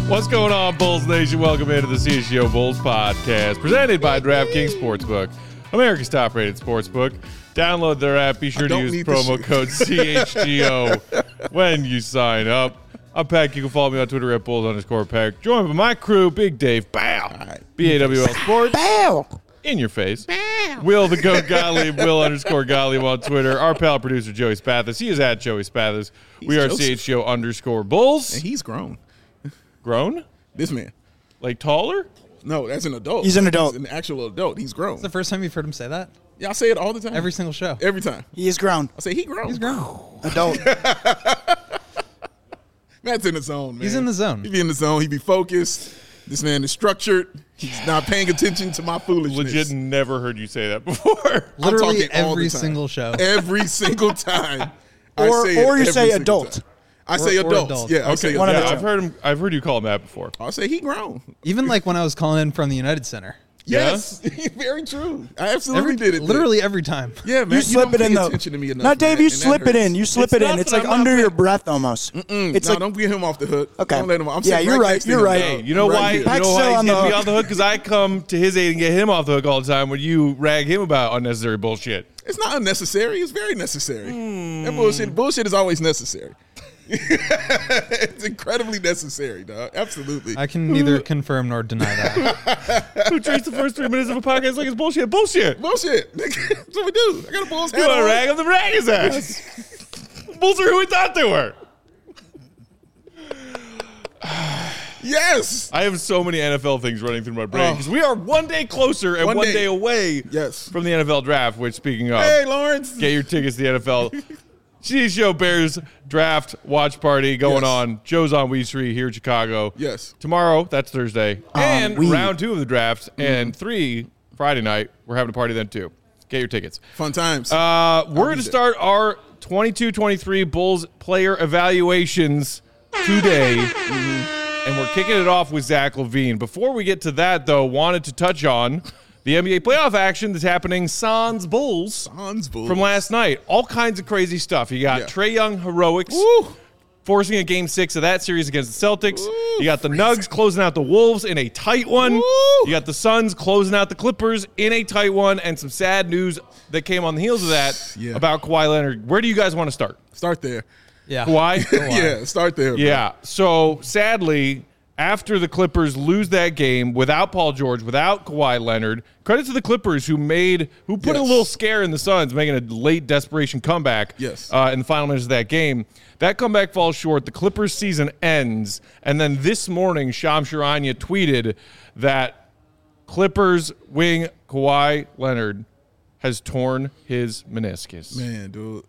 What's going on, Bulls Nation? Welcome into the CHGO Bulls podcast, presented by DraftKings Sportsbook, America's top-rated sportsbook. Download their app. Be sure to use promo code CHGO when you sign up. I'm Peck. You can follow me on Twitter at Bulls_Peck. Joined by my crew, Big Dave, Bow, BAWL Sports, Bow, in your face. Bow. Will the Goat Gottlieb, Will_Gottlieb on Twitter. Our pal producer, Joey Spathis. He is at Joey Spathis. We are CHGO_Bulls. And he's grown. Grown? This man. Like taller? No, that's an adult. He's an adult. He's an actual adult. He's grown. It's the first time you've heard him say that? Yeah, I say it all the time. Every single show. Every time. He is grown. I say he grown. He's grown. Adult. Matt's in the zone, man. He's in the zone. He be in the zone. He be focused. This man is structured. He's not paying attention to my foolishness. Legit never heard you say that before. Literally all every the time. single show. Every single time. Or you say adult. Time. I say adults. adult. Yeah, I say One of adults. the I've heard you call him that before. I say he grown. Even like when I was calling in from the United Center. Yes, very true. I absolutely did it. Literally every time. Yeah, man. You slip don't it in pay though. attention to me enough, Not Dave. man, You and that slip it in. hurts. You slip it in. It's like under your breath almost. It's No, like don't get him off the hook. Okay. Don't let him. I'm Yeah, sitting you're right. next to You're him, right. dog. Hey, you know Right why? here. You know Peck's why still he on the gets me hook. off the hook? Because I come to his aid and get him off the hook all the time when you rag him about unnecessary bullshit. It's not unnecessary. It's very necessary. That bullshit is always necessary. It's incredibly necessary, dog. Absolutely. I can neither confirm nor deny that. Who treats the first 3 minutes of a podcast like it's bullshit? Bullshit. Bullshit. That's what we do. I got a Bulls You hat want to on. rag him? Then rag his ass. Bulls are who we thought they were. Yes. I have so many NFL things running through my brain because we are one day closer and one day away Yes. from the NFL draft, which, speaking of, Hey, Lawrence. get your tickets to the NFL. CHGO Bears draft watch party going Yes. on. Joe's on Wee Street here in Chicago. Yes. Tomorrow, that's Thursday. And we- round 2 of the draft. And 3, Friday night. We're having a party then, too. Get your tickets. Fun times. We're going to start our 22-23 Bulls player evaluations today. And we're kicking it off with Zach LaVine. Before we get to that, though, wanted to touch on the NBA playoff action that's happening Suns Bulls from last night. All kinds of crazy stuff. You got Trae Young heroics forcing a game 6 of that series against the Celtics. You got the Nugs closing out the Wolves in a tight one. You got the Suns closing out the Clippers in a tight one. And some sad news that came on the heels of that about Kawhi Leonard. Where do you guys want to start? Start there. Yeah. Kawhi? Yeah, start there. Bro. Yeah. So sadly, after the Clippers lose that game without Paul George, without Kawhi Leonard, credit to the Clippers who put a little scare in the Suns, making a late desperation comeback in the final minutes of that game. That comeback falls short. The Clippers season ends. And then this morning, Shams Charania tweeted that Clippers wing Kawhi Leonard has torn his meniscus. Man, dude.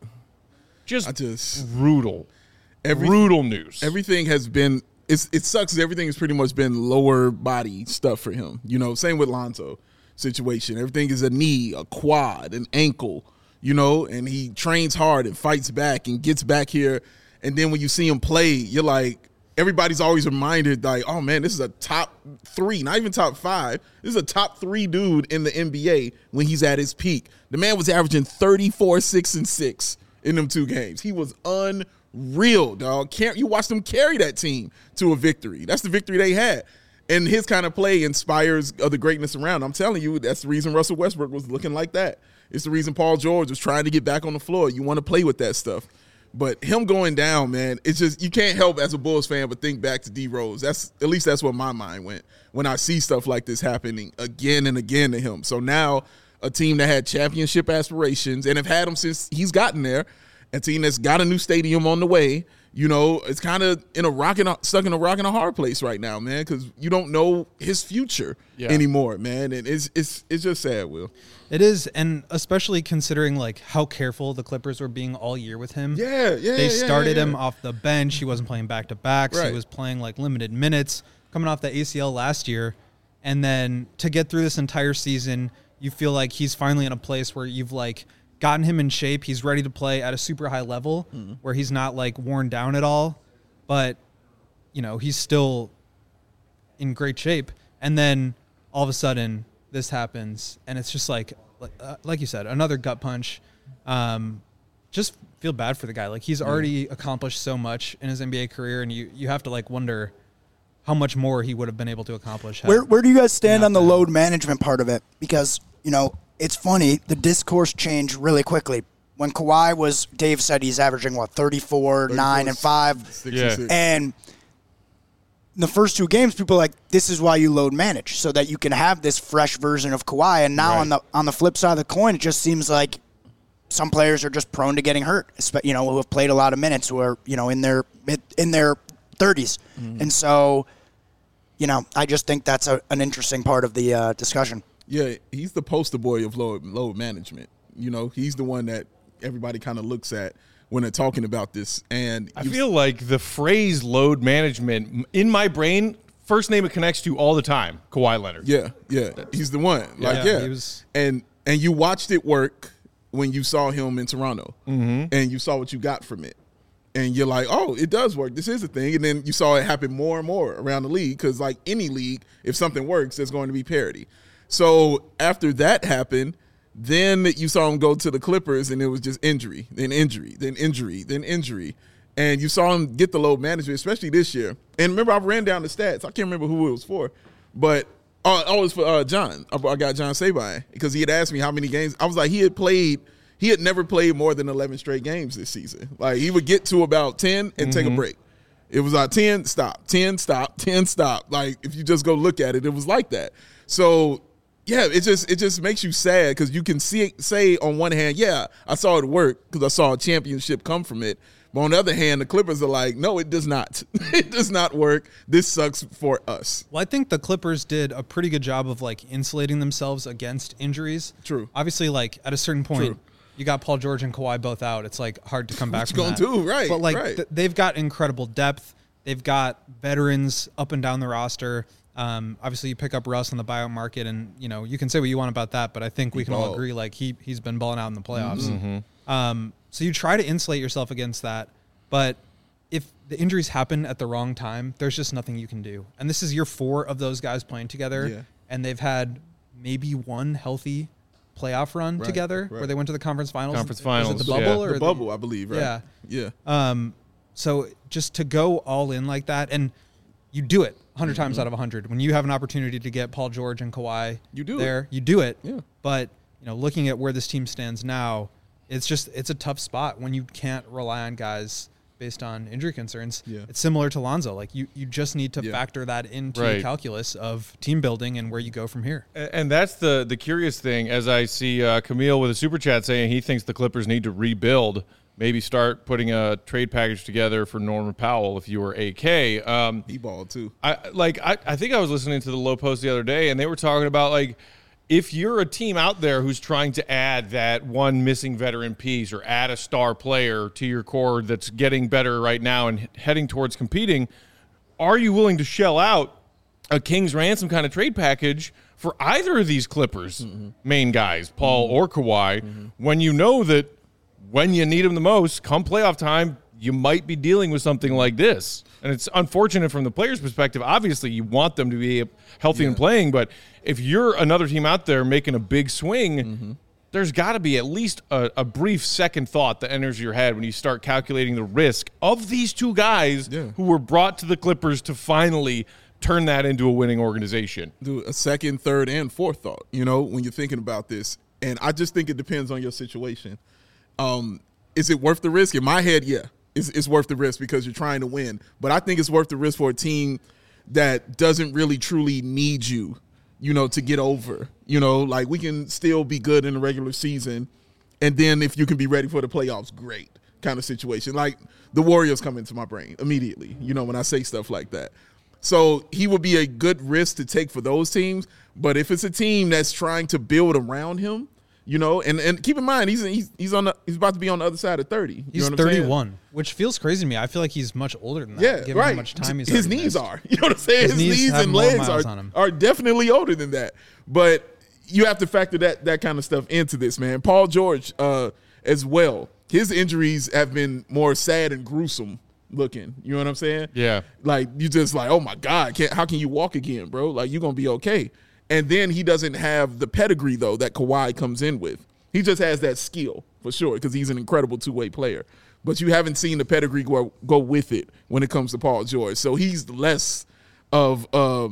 Just brutal. Brutal news. Everything has been it sucks. Everything has pretty much been lower body stuff for him. You know, same with Lonzo situation. Everything is a knee, a quad, an ankle, you know, and he trains hard and fights back and gets back here. And then when you see him play, you're like, everybody's always reminded, like, oh man, this is a top 3, not even top 5. This is a top 3 dude in the NBA when he's at his peak. The man was averaging 34, 6, and 6 in them 2 games. He was unreal, dog. You watched them carry that team to a victory. That's the victory they had. And his kind of play inspires other greatness around. I'm telling you, that's the reason Russell Westbrook was looking like that. It's the reason Paul George was trying to get back on the floor. You want to play with that stuff. But him going down, man, it's just, you can't help as a Bulls fan but think back to D Rose. At least that's where my mind went when I see stuff like this happening again and again to him. So now a team that had championship aspirations and have had him since he's gotten there, a team that's got a new stadium on the way, you know, it's kind of stuck in a rock and a hard place right now, man, because you don't know his future anymore, man. And it's just sad, Will. It is, and especially considering like how careful the Clippers were being all year with him. They started him off the bench. He wasn't playing back-to-backs. Right. He was playing like limited minutes coming off the ACL last year. And then to get through this entire season, you feel like he's finally in a place where you've like gotten him in shape. He's ready to play at a super high level where he's not like worn down at all, but you know, he's still in great shape. And then all of a sudden this happens and it's just like you said, another gut punch. Just feel bad for the guy. Like he's already accomplished so much in his NBA career and you have to like wonder how much more he would have been able to accomplish. Where do you guys stand on the load management part of it? Because, it's funny, the discourse changed really quickly. When Kawhi Dave said he's averaging, 34, 9, and 5. Yeah. And in the first 2 games, people are like, this is why you load manage, so that you can have this fresh version of Kawhi. And now on the flip side of the coin, it just seems like some players are just prone to getting hurt, who have played a lot of minutes, who are, in their 30s. Mm-hmm. And so, I just think that's an interesting part of the discussion. Yeah, he's the poster boy of load management. He's the one that everybody kind of looks at when they're talking about this. And I feel like the phrase load management, in my brain, first name it connects to all the time, Kawhi Leonard. Yeah. He's the one. He was, and you watched it work when you saw him in Toronto. Mm-hmm. And you saw what you got from it. And you're like, oh, it does work. This is a thing. And then you saw it happen more and more around the league because, like any league, if something works, there's going to be parity. So after that happened, then you saw him go to the Clippers, and it was just injury, then injury, then injury, then injury. And you saw him get the load management, especially this year. And remember, I ran down the stats. I can't remember who it was for. But it was for John. I got John Sabine because he had asked me how many games. I was like, he had never played more than 11 straight games this season. Like, he would get to about 10 and take a break. It was like 10, stop, 10, stop, 10, stop. Like, if you just go look at it, it was like that. So, yeah, it just makes you sad because you can say on one hand, yeah, I saw it work because I saw a championship come from it. But on the other hand, the Clippers are like, no, it does not. It does not work. This sucks for us. Well, I think the Clippers did a pretty good job of, insulating themselves against injuries. True. Obviously, at a certain point, you got Paul George and Kawhi both out. It's, hard to come back from that. What you going to do? Right, but, right. They've got incredible depth. They've got veterans up and down the roster. Obviously, you pick up Russ on the buyout market, and, you can say what you want about that, but I think we can all agree, he's been balling out in the playoffs. Mm-hmm. So you try to insulate yourself against that, but if the injuries happen at the wrong time, there's just nothing you can do. And this is year 4 of those guys playing together, and they've had maybe one healthy playoff run together where they went to the conference finals. Was it the bubble? Or the bubble, I believe, right? Yeah. So just to go all in like that, and you do it 100 times out of 100. When you have an opportunity to get Paul George and Kawhi you do it. Yeah. But, looking at where this team stands now, it's a tough spot when you can't rely on guys based on injury concerns. Yeah. It's similar to Lonzo. You just need to factor that into the calculus of team building and where you go from here. And that's the curious thing, as I see Camille with a super chat saying he thinks the Clippers need to rebuild, maybe start putting a trade package together for Norman Powell if you were AK. He balled too. I think I was listening to the Low Post the other day, and they were talking about, if you're a team out there who's trying to add that one missing veteran piece or add a star player to your core that's getting better right now and heading towards competing, are you willing to shell out a King's ransom kind of trade package for either of these Clippers main guys, Paul or Kawhi, when you know that when you need them the most, come playoff time, you might be dealing with something like this? And it's unfortunate from the player's perspective. Obviously, you want them to be healthy and playing, but if you're another team out there making a big swing, there's got to be at least a brief second thought that enters your head when you start calculating the risk of these two guys who were brought to the Clippers to finally turn that into a winning organization. Do a second, third, and fourth thought, when you're thinking about this. And I just think it depends on your situation. Is it worth the risk? In my head, yeah. It's worth the risk because you're trying to win. But I think it's worth the risk for a team that doesn't really truly need you, to get over. We can still be good in the regular season, and then if you can be ready for the playoffs, great kind of situation. Like the Warriors come into my brain immediately, when I say stuff like that. So he would be a good risk to take for those teams. But if it's a team that's trying to build around him, and keep in mind he's about to be on the other side of 30. He's 31, which feels crazy to me. I feel like he's much older than that. Yeah, given how much time his knees are. You know what I'm saying? His knees and legs are definitely older than that. But you have to factor that kind of stuff into this, man. Paul George as well. His injuries have been more sad and gruesome looking. You know what I'm saying? Yeah. You just oh my God, how can you walk again, bro? You're gonna be okay. And then he doesn't have the pedigree, though, that Kawhi comes in with. He just has that skill, for sure, because he's an incredible two-way player. But you haven't seen the pedigree go with it when it comes to Paul George. So he's less of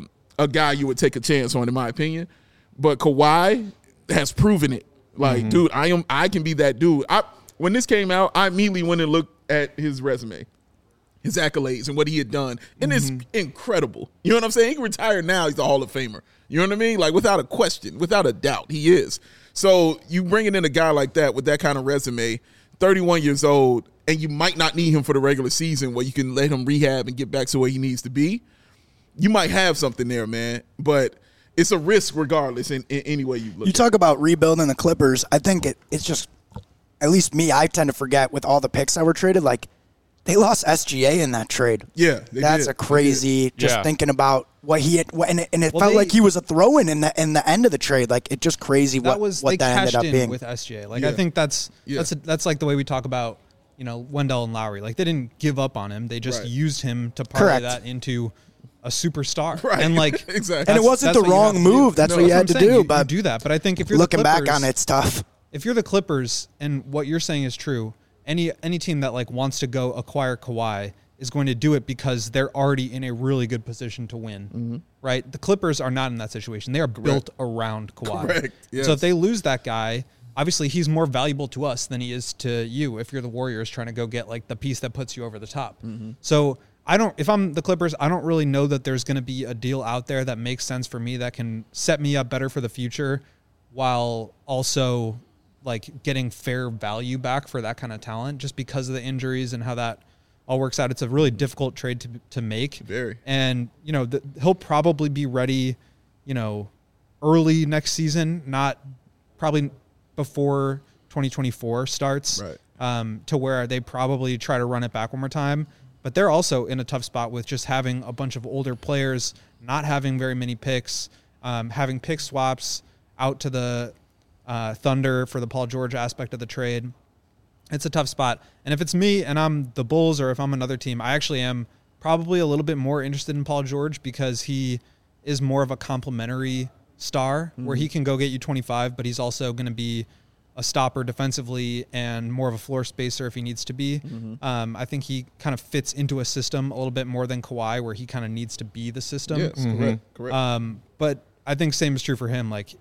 a guy you would take a chance on, in my opinion. But Kawhi has proven it. Like, dude, I can be that dude. When this came out, I immediately went and looked at his resume, his accolades, and what he had done. And it's incredible. You know what I'm saying? He can retire now. He's a Hall of Famer. You know what I mean? Like, without a question, without a doubt, he is. So you bringing in a guy like that with that kind of resume, 31 years old, and you might not need him for the regular season where you can let him rehab and get back to where he needs to be. You might have something there, man. But it's a risk regardless in any way you look You at talk about rebuilding the Clippers. I think it's just, at least me, I tend to forget with all the picks that were traded, like, they lost SGA in that trade. Yeah, that's did. a crazy. Just thinking about what he had, and it felt like he was a throw-in in the end of the trade. Like, it's just crazy what that ended up being with SGA. Like, I think that's like the way we talk about, you know, Wendell and Lowry. Like, they didn't give up on him; they just used him to parlay that into a superstar. Right. And like, exactly. And it wasn't the wrong move. That's what you had to do. But do that. But I think if you're looking the Clippers, back on it, it's tough. If you're the Clippers, and what you're saying is true. Any team that like wants to go acquire Kawhi is going to do it because they're already in a really good position to win, right? The Clippers are not in that situation. They are built around Kawhi. Correct. Yes. So if they lose that guy, obviously he's more valuable to us than he is to you if you're the Warriors trying to go get like the piece that puts you over the top. So if I'm the Clippers, I don't really know that there's going to be a deal out there that makes sense for me that can set me up better for the future while also like getting fair value back for that kind of talent just because of the injuries and how that all works out. It's a really difficult trade to make. Very. And, you know, he'll probably be ready, you know, early next season, not probably before 2024 starts, right. To where they probably try to run it back one more time. But they're also in a tough spot with just having a bunch of older players, not having very many picks, having pick swaps out to the Thunder for the Paul George aspect of the trade. It's a tough spot. And if it's me and I'm the Bulls or if I'm another team, I actually am probably a little bit more interested in Paul George because he is more of a complementary star where he can go get you 25, but he's also going to be a stopper defensively and more of a floor spacer if he needs to be. I think he kind of fits into a system a little bit more than Kawhi where he kind of needs to be the system. Yes, correct. But I think same is true for him. Like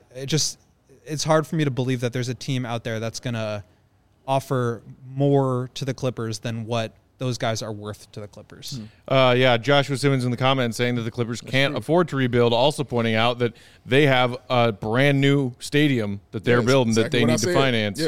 it's hard for me to believe that there's a team out there that's going to offer more to the Clippers than what those guys are worth to the Clippers. Joshua Simmons in the comments saying that the Clippers can't afford to rebuild, also pointing out that they have a brand new stadium that they're building that they need to finance.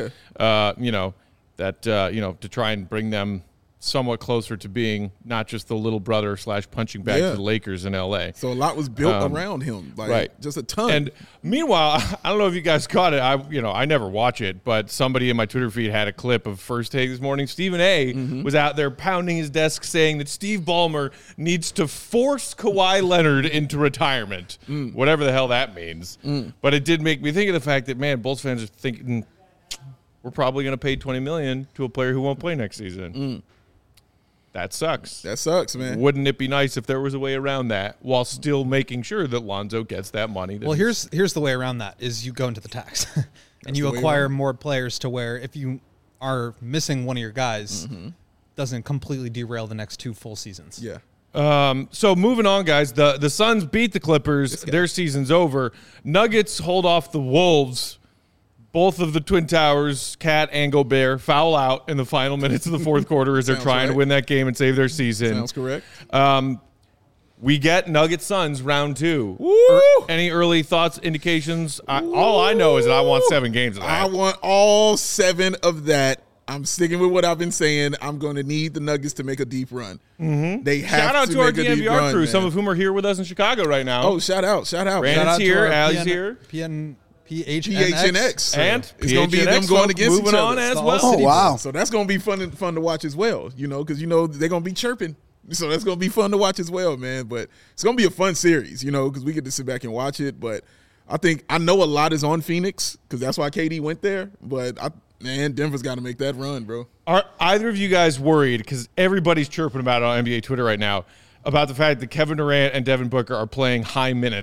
To try and bring them somewhat closer to being not just the little brother / punching back to the Lakers in LA. So a lot was built around him, just a ton. And meanwhile, I don't know if you guys caught it. I never watch it, but somebody in my Twitter feed had a clip of First Take this morning. Stephen A. was out there pounding his desk saying that Steve Ballmer needs to force Kawhi Leonard into retirement, whatever the hell that means. But it did make me think of the fact that, man, Bulls fans are thinking we're probably going to pay $20 million to a player who won't play next season. That sucks. That sucks, man. Wouldn't it be nice if there was a way around that while still making sure that Lonzo gets that money? Well, here's the way around that is you go into the tax and you acquire more players to where if you are missing one of your guys, doesn't completely derail the next 2 full seasons. Yeah. So moving on, guys, the Suns beat the Clippers. Their season's over. Nuggets hold off the Wolves. Both of the Twin Towers, Cat and Gobert, foul out in the final minutes of the fourth quarter as they're trying to win that game and save their season. Sounds correct. We get Nuggets Suns round 2. Woo! Any early thoughts, indications? All I know is that I want 7 games of that. I want all 7 of that. I'm sticking with what I've been saying. I'm going to need the Nuggets to make a deep run. They have shout out to our make a deep DNVR run, crew, man. Some of whom are here with us in Chicago right now. Oh, shout out. Brandon's here, Allie's here. PHNX. And it's going to be them going against moving each other. on as well. Oh, wow. So that's going to be fun to watch as well, because they're going to be chirping. So that's going to be fun to watch as well, man. But it's going to be a fun series, because we get to sit back and watch it. But I know a lot is on Phoenix because that's why KD went there. But, Denver's got to make that run, bro. Are either of you guys worried, because everybody's chirping about it on NBA Twitter right now, about the fact that Kevin Durant and Devin Booker are playing high minutes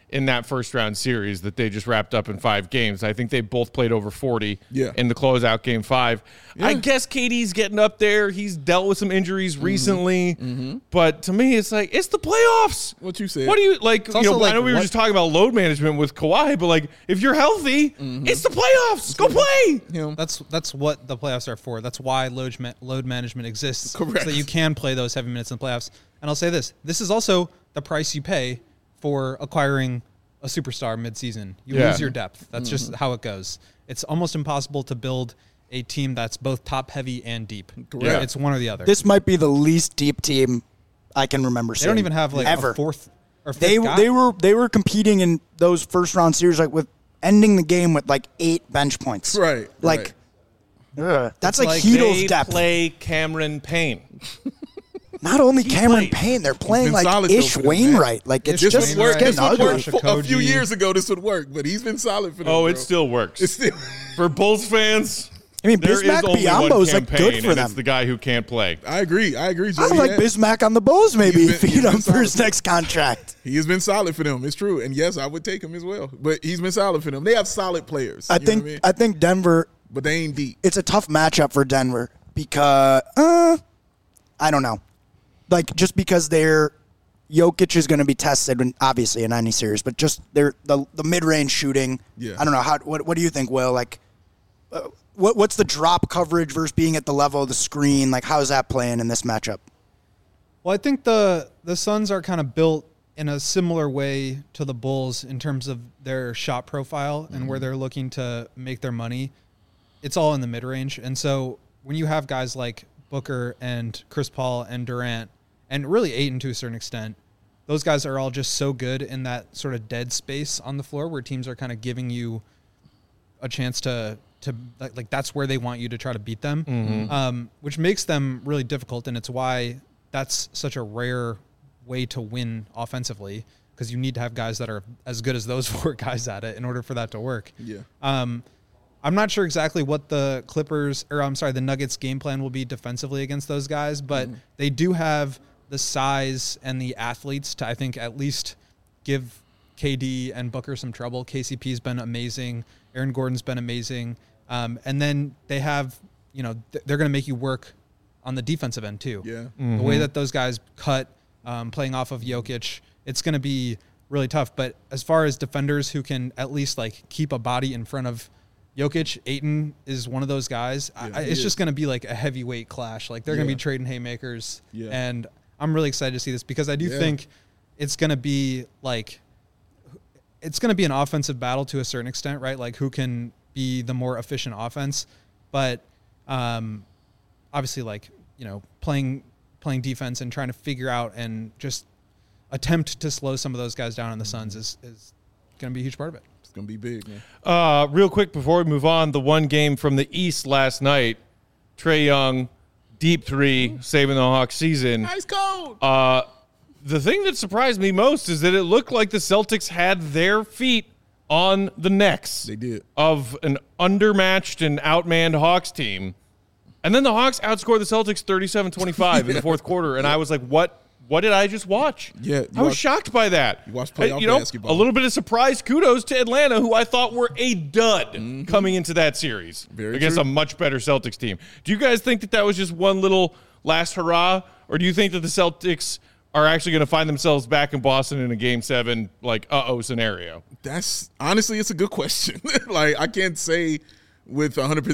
in that first round series that they just wrapped up in 5 games. I think they both played over 40 in the closeout game 5. I guess KD's getting up there. He's dealt with some injuries recently, but to me, it's like, it's the playoffs. What you said. What do you like? You know, like I know we were just talking about load management with Kawhi, but like, if you're healthy, it's the playoffs. Go play. That's what the playoffs are for. That's why load management exists. Correct. So that you can play those heavy minutes in the playoffs. And I'll say this is also the price you pay for acquiring a superstar midseason. You lose your depth. That's just how it goes. It's almost impossible to build a team that's both top heavy and deep. Correct. It's one or the other. This might be the least deep team I can remember seeing. They don't even have like ever. a fourth or fifth guy. They were competing in those first round series like with ending the game with like 8 bench points. Right. Like that's like like Hedo's They depth. play Cameron Payne. Not only Cameron played. Payne, they're playing been like solid, though, Ish for them, Wainwright. Like it's Ish just Wainwright. it's This getting would ugly. work a few Koji. years ago. This would work, but he's been solid for them. Oh, bro. it still works. It's still. For Bulls fans, I mean, there is Bismack only one Biyombo's like campaign, good for and them. it's the guy who can't play. I agree, I Joey. like Bismack on the Bulls maybe He's if been- feed him he's for been his solid. next contract. He has been solid for them. It's true, and yes, I would take him as well. But he's been solid for them. They have solid players. I you know think what I mean? I think Denver. But they ain't deep. It's a tough matchup for Denver because I don't know, like just because Jokic is going to be tested, obviously in any series, but just the mid range shooting. Yeah. I don't know what do you think, Will? Like, what's the drop coverage versus being at the level of the screen? Like, how's that playing in this matchup? Well, I think the Suns are kind of built in a similar way to the Bulls in terms of their shot profile and where they're looking to make their money. It's all in the mid-range. And so when you have guys like Booker and Chris Paul and Durant, and really Ayton to a certain extent, those guys are all just so good in that sort of dead space on the floor where teams are kind of giving you a chance to like that's where they want you to try to beat them, which makes them really difficult. And it's why that's such a rare way to win offensively, because you need to have guys that are as good as those 4 guys at it in order for that to work. Yeah. I'm not sure exactly what the the Nuggets game plan will be defensively against those guys, but they do have the size and the athletes to, I think, at least give KD and Booker some trouble. KCP's been amazing. Aaron Gordon's been amazing. And then they have, they're going to make you work on the defensive end too. Yeah. The way that those guys cut, playing off of Jokic, it's going to be really tough. But as far as defenders who can at least like keep a body in front of Jokic, Ayton is one of those guys. It's just going to be like a heavyweight clash. Like they're going to be trading haymakers. Yeah. And I'm really excited to see this because I do think it's going to be like, it's going to be an offensive battle to a certain extent, right? Like who can be the more efficient offense, but obviously like, playing defense and trying to figure out and just attempt to slow some of those guys down on the Suns is going to be a huge part of it. It's going to be big, man. Real quick before we move on, the one game from the East last night, Trae Young, deep 3, saving the Hawks season. Ice cold. The thing that surprised me most is that it looked like the Celtics had their feet on the necks They did. of an undermatched and outmanned Hawks team. And then the Hawks outscored the Celtics 37-25 in the fourth quarter. And I was like, what did I just watch? Yeah, I was shocked by that. You watched playoff basketball. A little bit of surprise kudos to Atlanta, who I thought were a dud coming into that series Very against true. a much better Celtics team. Do you guys think that was just one little last hurrah? Or do you think that the Celtics are actually going to find themselves back in Boston in a Game 7, like, scenario? That's honestly, it's a good question. Like, I can't say with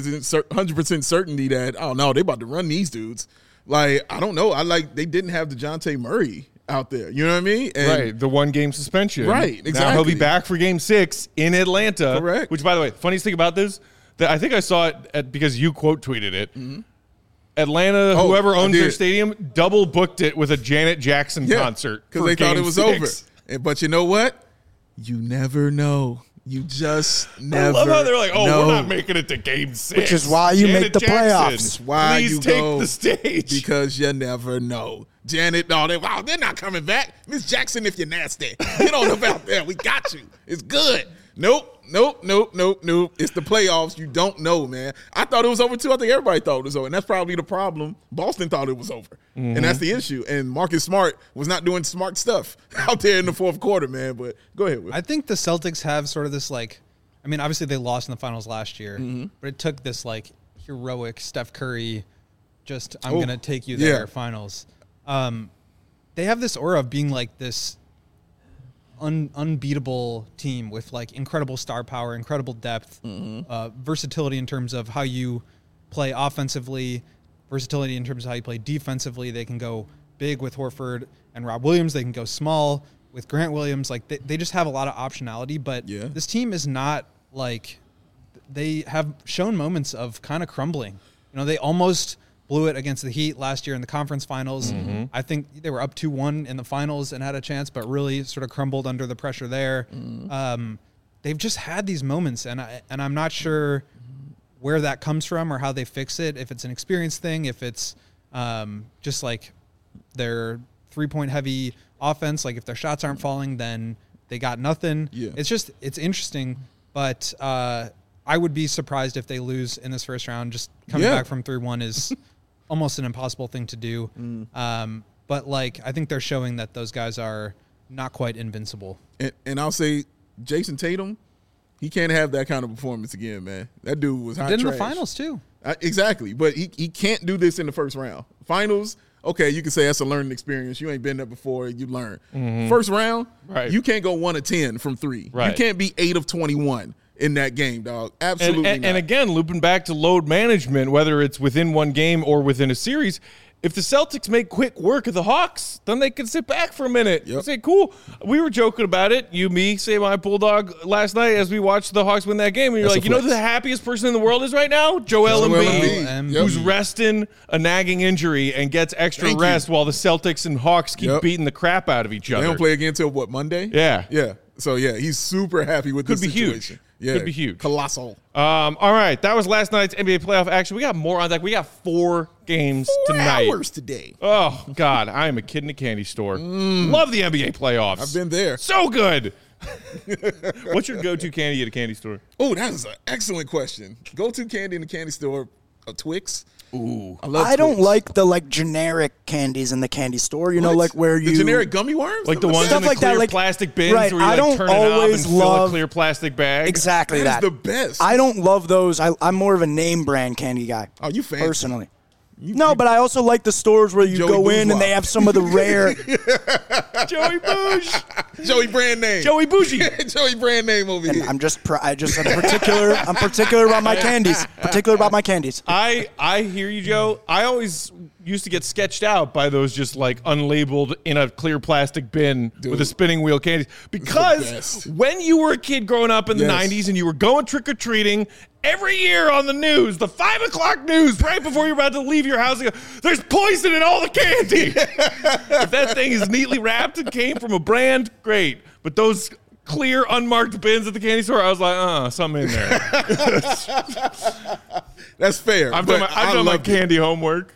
100% certainty that, oh no, they about to run these dudes. Like, I don't know. They didn't have DeJounte Murray out there. You know what I mean? And Right, the 1-game suspension. Right, Now he'll be exactly. back for Game 6 in Atlanta. Correct. Which, by the way, funniest thing about this, that I think I saw it because you quote tweeted it. Atlanta, Oh, whoever I owns their did. stadium, double booked it with a Janet Jackson concert because for they thought Game it was 6. over. But you know what? You never know. You just never I love how they're like, know. we're not making it to Game 6. Which is why you make the playoffs. That's why Please you take go the stage. because you never know. Janet, they're not coming back. Miss Jackson, if you're nasty, get on up out there. We got you. It's good. Nope. It's the playoffs. You don't know, man. I thought it was over too. I think everybody thought it was over, and that's probably the problem. Boston thought it was over, and that's the issue. And Marcus Smart was not doing smart stuff out there in the fourth quarter, man. But go ahead. Will. I think the Celtics have sort of this obviously they lost in the finals last year, but it took this heroic Steph Curry, I'm going to take you there finals. They have this aura of being this unbeatable team with incredible star power, incredible depth, versatility in terms of how you play offensively, versatility in terms of how you play defensively. They can go big with Horford and Rob Williams. They can go small with Grant Williams. They just have a lot of optionality, but this team is not they have shown moments of kind of crumbling. They almost blew it against the Heat last year in the conference finals. I think they were up 2-1 in the finals and had a chance, but really sort of crumbled under the pressure there. They've just had these moments, and I'm not sure where that comes from or how they fix it, if it's an experience thing, if it's just their three-point heavy offense. If their shots aren't falling, then they got nothing. Yeah. It's interesting, but I would be surprised if they lose in this first round. Just coming back from 3-1 is almost an impossible thing to do. But I think they're showing that those guys are not quite invincible. And I'll say Jason Tatum, he can't have that kind of performance again, man. That dude was hot Did in trash. the finals too. Exactly, but he can't do this in the first round. Finals, okay, you can say that's a learning experience. You ain't been there before, you learn. First round, you can't go 1 of 10 from 3. Right. You can't be 8 of 21 in that game, dog. Absolutely not. And again, looping back to load management, whether it's within one game or within a series, if the Celtics make quick work of the Hawks, then they can sit back for a minute and say, cool. We were joking about it, you, me, say my Bulldog last night as we watched the Hawks win that game. And you're you know who the happiest person in the world is right now? Joel Embiid, who's resting a nagging injury and gets extra rest while the Celtics and Hawks keep beating the crap out of each other. They don't play again until, Monday? Yeah. Yeah. So, he's super happy with this situation. Huge. Yeah. Could be huge. Colossal. All right. That was last night's NBA playoff action. We got more on that. We got 4 games 4 tonight. hours today. Oh, God. I am a kid in a candy store. Love the NBA playoffs. I've been there. So good. What's your go-to candy at a candy store? Oh, that is an excellent question. Go-to candy in the candy store, a Twix. Ooh. I don't like the generic candies in the candy store. You know, where you the generic gummy worms, like the ones stuff in the clear that, plastic bins right, where you I don't turn it up and always fill a love clear plastic bag. exactly That that. is the best. I don't love those. I'm more of a name brand candy guy. Oh, you fancy. Personally. But I also like the stores where you Joey go in Bourgeois. and they have some of the rare. Joey Bouge. Joey brand name. Joey Bougie. Joey brand name over here. I'm particular about my candies. Particular about my candies. I hear you, Joe. I always used to get sketched out by those just unlabeled in a clear plastic bin with a spinning wheel candies. Because when you were a kid growing up in the 90s and you were going trick-or-treating, every year on the news, the 5 o'clock news, right before you're about to leave your house, there's poison in all the candy. If that thing is neatly wrapped and came from a brand, great. But those clear, unmarked bins at the candy store, I was like, something in there. That's fair. I've done my candy homework.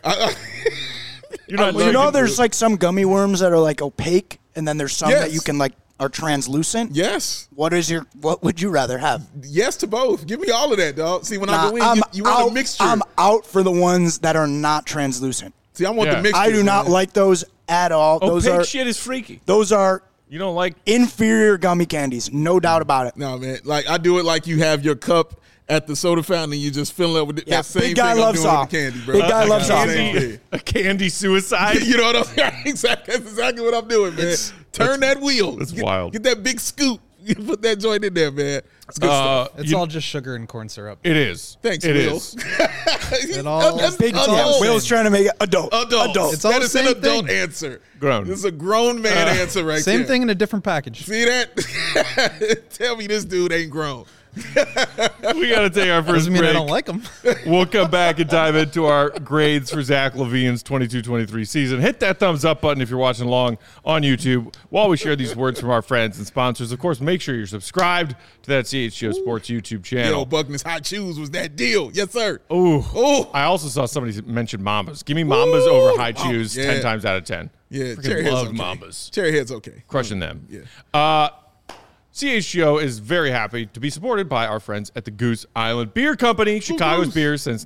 There's some gummy worms that are opaque, and then there's some that you can are translucent. Yes. What would you rather have? Yes to both. Give me all of that, dog. See, when I go in, you want a mixture. I'm out for the ones that are not translucent. See, I want the mixture. I do not like those at all. Opaque shit is freaky. Those are you don't like inferior gummy candies, no doubt about it. No, man. I do it like you have your cup at the soda fountain and you just fill it up with that same big guy thing loves I'm doing with the candy, bro. Big guy loves a candy suicide. You know what I'm saying? Exactly. That's exactly what I'm doing, man. Turn that wheel. That's wild. Get that big scoop. You put that joint in there, man. It's good stuff. It's all just sugar and corn syrup. It is. Thanks, it Will. is. That's big adult. Will's trying to make it adult. It's that is an adult thing. answer. Grown. This is a grown man answer right Same there. thing in a different package. See that? Tell me this dude ain't grown. We got to take our first Doesn't mean break. I don't like them. We'll come back and dive into our grades for Zach LaVine's 22-23 season. Hit that thumbs up button if you're watching along on YouTube while we share these words from our friends and sponsors. Of course, make sure you're subscribed to that CHGO Sports YouTube channel. Yo, Buckner's Hot Shoes was that deal. Yes, sir. Ooh. Ooh. I also saw somebody mention Mambas. Give me Mambas over High Chews 10 times out of 10. Yeah, Freaking Cherry Head's love okay. Mambas. Cherry Head's okay. Crushing them. Yeah. CHGO is very happy to be supported by our friends at the Goose Island Beer Company, Chicago's beer since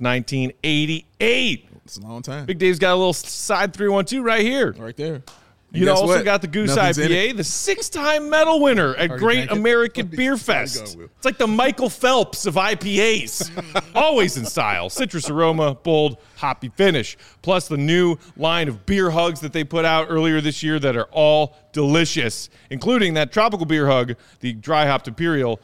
1988. It's a long time. Big Dave's got a little side 312 right here. Right there. You guess also what? got the Goose Nothing's in IPA, it. the 6-time medal winner at Already Great drank it? American Beer Gotta Fest. go, Will. It's like the Michael Phelps of IPAs. Always in style. Citrus aroma, bold, hoppy finish. Plus the new line of beer hugs that they put out earlier this year that are all delicious, including that tropical beer hug, the Dry Hopped Imperial,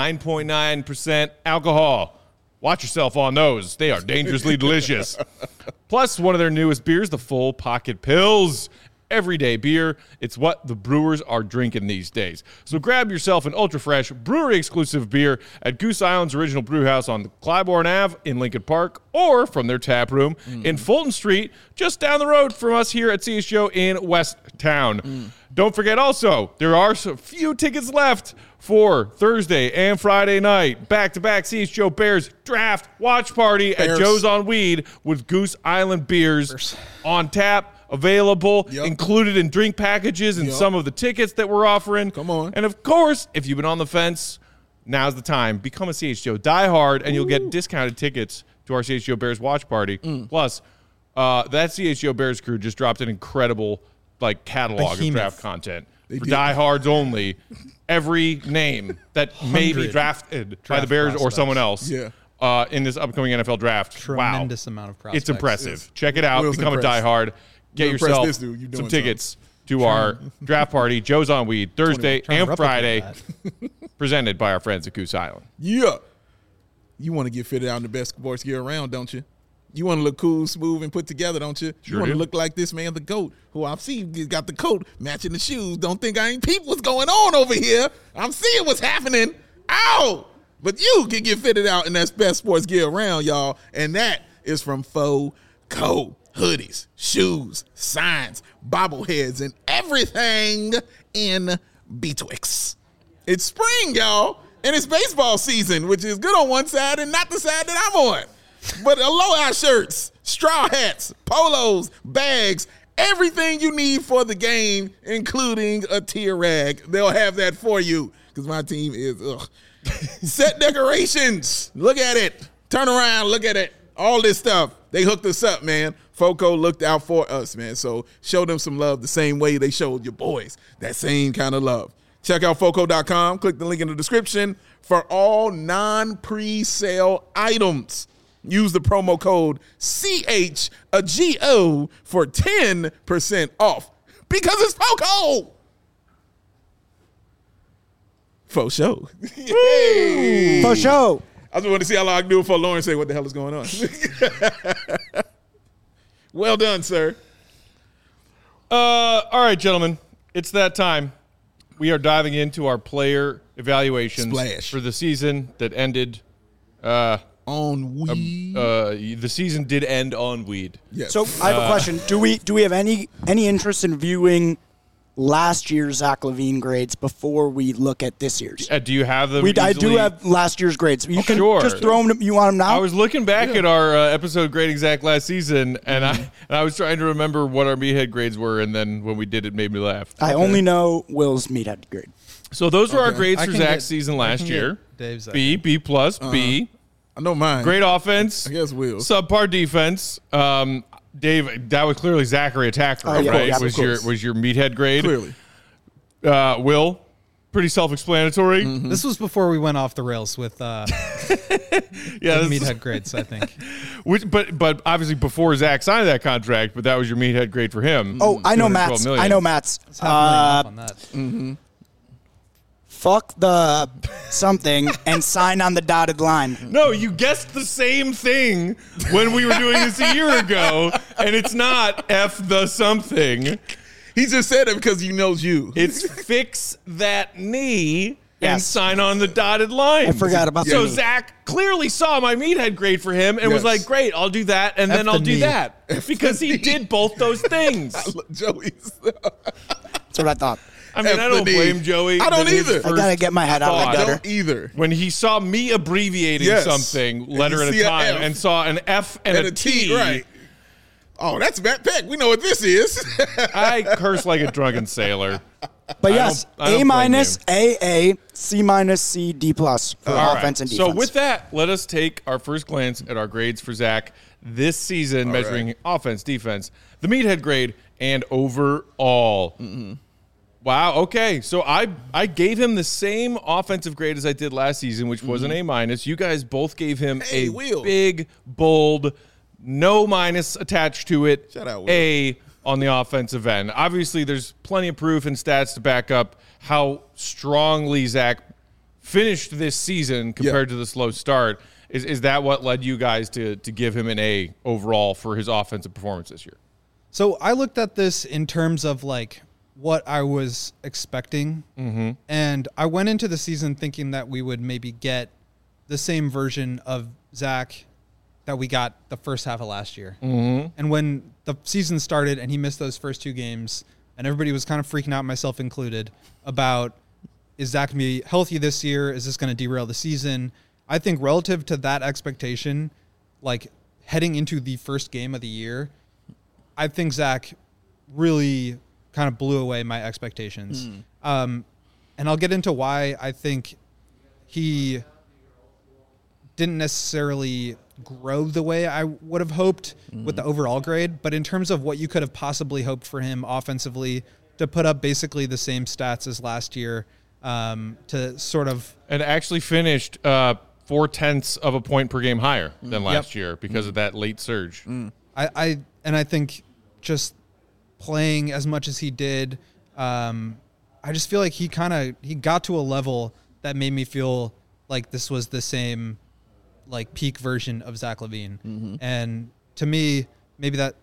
9.9% alcohol. Watch yourself on those. They are dangerously delicious. Plus, one of their newest beers, the Full Pocket Pills. Everyday beer. It's what the brewers are drinking these days. So grab yourself an ultra-fresh, brewery-exclusive beer at Goose Island's original brew house on Clybourne Ave in Lincoln Park, or from their tap room in Fulton Street, just down the road from us here at CHGO in West Town. Don't forget also, there are a few tickets left for Thursday and Friday night. Back-to-back CHGO Bears draft watch party at Bears. Joe's on Weed with Goose Island beers on tap, available, Yep. included in drink packages and some of the tickets that we're offering. Come on. And of course, if you've been on the fence, now's the time. Become a CHGO diehard, and you'll get discounted tickets to our CHGO Bears watch party. Plus, that CHGO Bears crew just dropped an incredible catalog of Behemoth. draft content for did. diehards only. Every name that may be 100 drafted by the draft Bears or prospects. someone else Yeah. in this upcoming NFL draft. Tremendous amount of prospects. It's impressive. Check it out. Will's Become impressed. a diehard. Get You impressed yourself this dude. You doing some tickets to our draft party, Joe's on Weed, Thursday Trying to and replicate Friday, that. presented by our friends at Goose Island. Yeah. You want to get fitted out in the best sports gear around, don't you? You want to look cool, smooth, and put together, don't you? Sure You want to do. look like this man, the GOAT, who I've seen he's got the coat matching the shoes. Don't think I ain't peep what's going on over here. I'm seeing what's happening. Ow! But you can get fitted out in that best sports gear around, y'all. And that is from FOCO. Hoodies, shoes, signs, bobbleheads, and everything in betwixt. It's spring, y'all, and it's baseball season, which is good on one side and not the side that I'm on. But aloha shirts, straw hats, polos, bags, everything you need for the game, including a tear rag. They'll have that for you because my team is set decorations. Look at it. Turn around. Look at it. All this stuff. They hooked us up, man. FOCO looked out for us, man. So show them some love the same way they showed your boys that same kind of love. Check out FOCO.com. Click the link in the description for all non-pre-sale items. Use the promo code CHGO for 10% off because it's FOCO. Faux show. Yay. For sure. I just wanted to see how long I can do it before Lauren say what the hell is going on. Well done, sir. All right, gentlemen, it's that time. We are diving into our player evaluations Splash. for the season that ended. On weed. The season did end on Weed. Yes. So I have a question. Do we have any interest in viewing last year's Zach LaVine grades before we look at this year's? Do you have them? I do easily? have last year's grades. You can Sure. just throw them. You want them now? I was looking back at our episode grade exact last season, and I was trying to remember what our meathead grades were, and then when we did, it made me laugh. I only know Will's meathead grade. So those were our Okay. grades I for can Zach's get- season I last can get year. Dave's, I B, B plus, B. I know mine. Great offense. I guess Will. Subpar defense. Dave, that was clearly Zachary Attacker, Oh, yeah, right? yeah, of was course. your meathead grade? Clearly. Will, pretty self-explanatory. This was before we went off the rails with Yeah, this is- meathead grades, I think. but obviously before Zach signed that contract, but that was your meathead grade for him. Oh, I know 212 Matt's. million. I know Matt's. It's half a million off on that. Fuck the something and sign on the dotted line. No, you guessed the same thing when we were doing this a year ago, and it's not F the something. He just said it because he knows you. It's fix that knee and Yes. sign on the dotted line. I forgot about So the knee. Zach clearly saw my meathead grade for him and was Yes. like, great, I'll do that, and then the I'll do knee. that. Because he did both those things. Joey's. That's what I thought. I mean, I don't FD. blame Joey. I don't that his either. I gotta get my head out of the thought- I gutter. don't either. When he saw me abbreviating Yes. something And letter you at see a a time F. and saw an F and a T, right. Oh, that's Matt Peck. We know what this is. I curse like a drunken sailor. But yes, I don't A minus, blame AA, C minus, C, D plus for All offense right. and defense. So with that, let us take our first glance at our grades for Zach this season, measuring offense, defense, the meathead grade, and overall. Wow. Okay. So I gave him the same offensive grade as I did last season, which was an A minus. You guys both gave him a Will. big, bold, no minus attached to it. Shout out, Will. A on the offensive end. Obviously, there's plenty of proof and stats to back up how strongly Zach finished this season compared to the slow start. Is that what led you guys to give him an A overall for his offensive performance this year? So I looked at this in terms of like what I was expecting. And I went into the season thinking that we would maybe get the same version of Zach that we got the first half of last year. And when the season started and he missed those first two games and everybody was kind of freaking out, myself included, about is Zach going to be healthy this year? Is this going to derail the season? I think relative to that expectation, like heading into the first game of the year, I think Zach really kind of blew away my expectations. And I'll get into why I think he didn't necessarily grow the way I would have hoped with the overall grade. But in terms of what you could have possibly hoped for him offensively, to put up basically the same stats as last year, to sort of... And actually finished 0.4 of a point per game higher than last year because of that late surge. I think just playing as much as he did, I just feel like he got to a level that made me feel like this was the same like peak version of Zach LaVine. And to me, maybe that,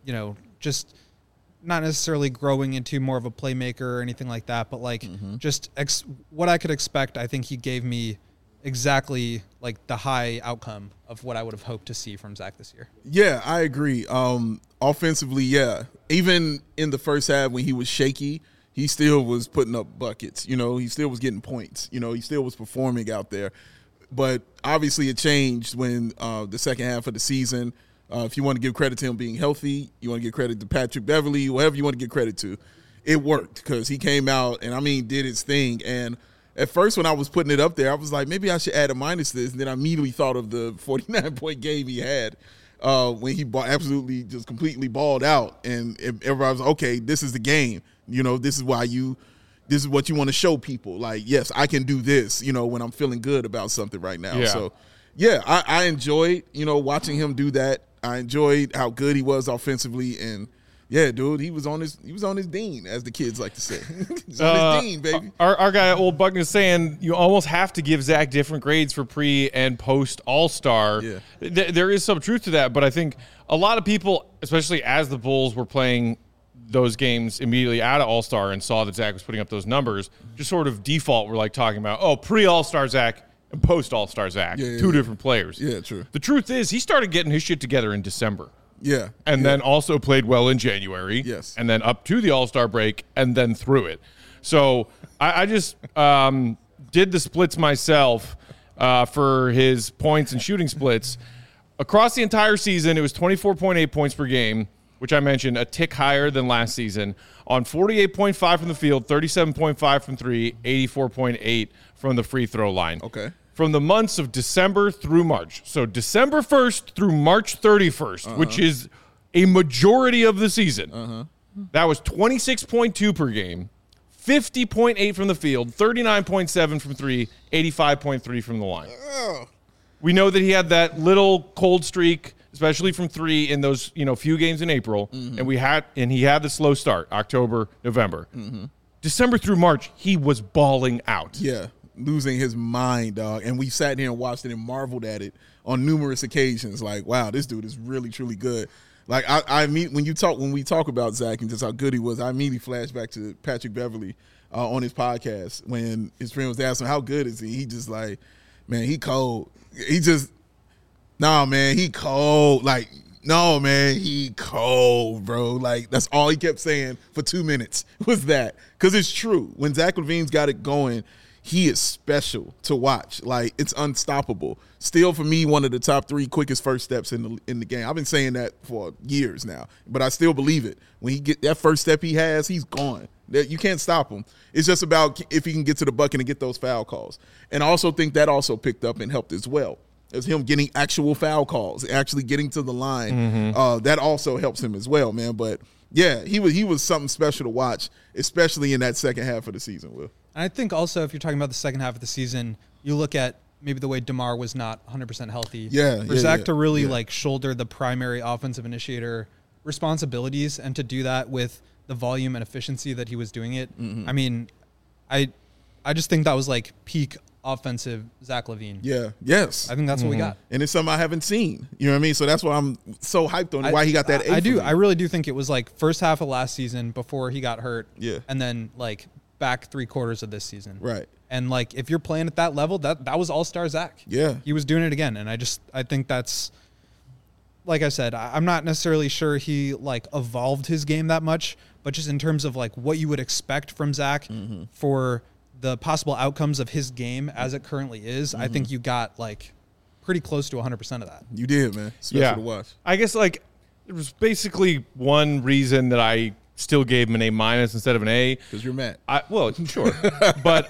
just not necessarily growing into more of a playmaker or anything like that, but like just what I could expect. I think he gave me exactly like the high outcome of what I would have hoped to see from Zach this year. Yeah, I agree. Offensively, yeah. Even in the first half when he was shaky, he still was putting up buckets. He still was getting points. He still was performing out there. But obviously it changed when the second half of the season, if you want to give credit to him being healthy, you want to give credit to Patrick Beverly, whatever you want to give credit to, it worked because he came out and, did his thing. And at first when I was putting it up there, I was like, maybe I should add a minus to this. And then I immediately thought of the 49-point game he had when he absolutely just completely balled out. And everybody was like, okay, this is the game. This is what you want to show people. Like, yes, I can do this, when I'm feeling good about something right now. Yeah. So, yeah, I enjoyed, watching him do that. I enjoyed how good he was offensively. And, yeah, dude, he was on his dean, as the kids like to say. He's on his dean, baby. Our guy, Old Buck, is saying you almost have to give Zach different grades for pre and post All-Star. Yeah. There is some truth to that, but I think a lot of people, especially as the Bulls were playing those games immediately out of All-Star and saw that Zach was putting up those numbers, just sort of default, we're like talking about, pre-All-Star Zach and post-All-Star Zach, two different players. Yeah, true. The truth is he started getting his shit together in December. Yeah. And then also played well in January. Yes. And then up to the All-Star break and then through it. So I just did the splits myself for his points and shooting splits. Across the entire season, it was 24.8 points per game, which I mentioned, a tick higher than last season, on 48.5 from the field, 37.5 from three, 84.8 from the free throw line. Okay. From the months of December through March. So December 1st through March 31st, which is a majority of the season. That was 26.2 per game, 50.8 from the field, 39.7 from three, 85.3 from the line. We know that he had that little cold streak, especially from three in those few games in April, and he had the slow start, October, November. December through March, he was balling out. Yeah, losing his mind, dog. And we sat here and watched it and marveled at it on numerous occasions. Like, wow, this dude is really, truly good. Like, when we talk about Zach and just how good he was, I immediately flash back to Patrick Beverly on his podcast when his friend was asking him, how good is he? He just like, man, he cold. He just, nah, man, he cold. Like, no, man, he cold, bro. Like, that's all he kept saying for 2 minutes was that. Because it's true. When Zach LaVine's got it going, he is special to watch. Like, it's unstoppable. Still, for me, one of the top 3 quickest first steps in the game. I've been saying that for years now, but I still believe it. When he get that first step he has, he's gone. You can't stop him. It's just about if he can get to the bucket and get those foul calls. And I also think that also picked up and helped as well. As him getting actual foul calls, actually getting to the line. That also helps him as well, man. But yeah, he was something special to watch, especially in that second half of the season, Will. And I think also if you're talking about the second half of the season, you look at maybe the way DeMar was not 100% healthy. For Zach to really like shoulder the primary offensive initiator responsibilities and to do that with the volume and efficiency that he was doing it. I mean, I just think that was like peak offensive Zach LaVine. Yeah. Yes. I think that's what we got. And it's something I haven't seen. You know what I mean? So that's why I'm so hyped on why he got that. I do. I really do think it was like first half of last season before he got hurt. Yeah. And then like back 3/4 of this season. Right. And like if you're playing at that level, that was all-star Zach. Yeah. He was doing it again. And I think that's, like I said, I'm not necessarily sure he like evolved his game that much, but just in terms of like what you would expect from Zach for the possible outcomes of his game as it currently is, I think you got like pretty close to 100% of that. You did, man. Special to watch. I guess like there was basically one reason that I still gave him an A- instead of an A. Because you're mad. Well, sure. But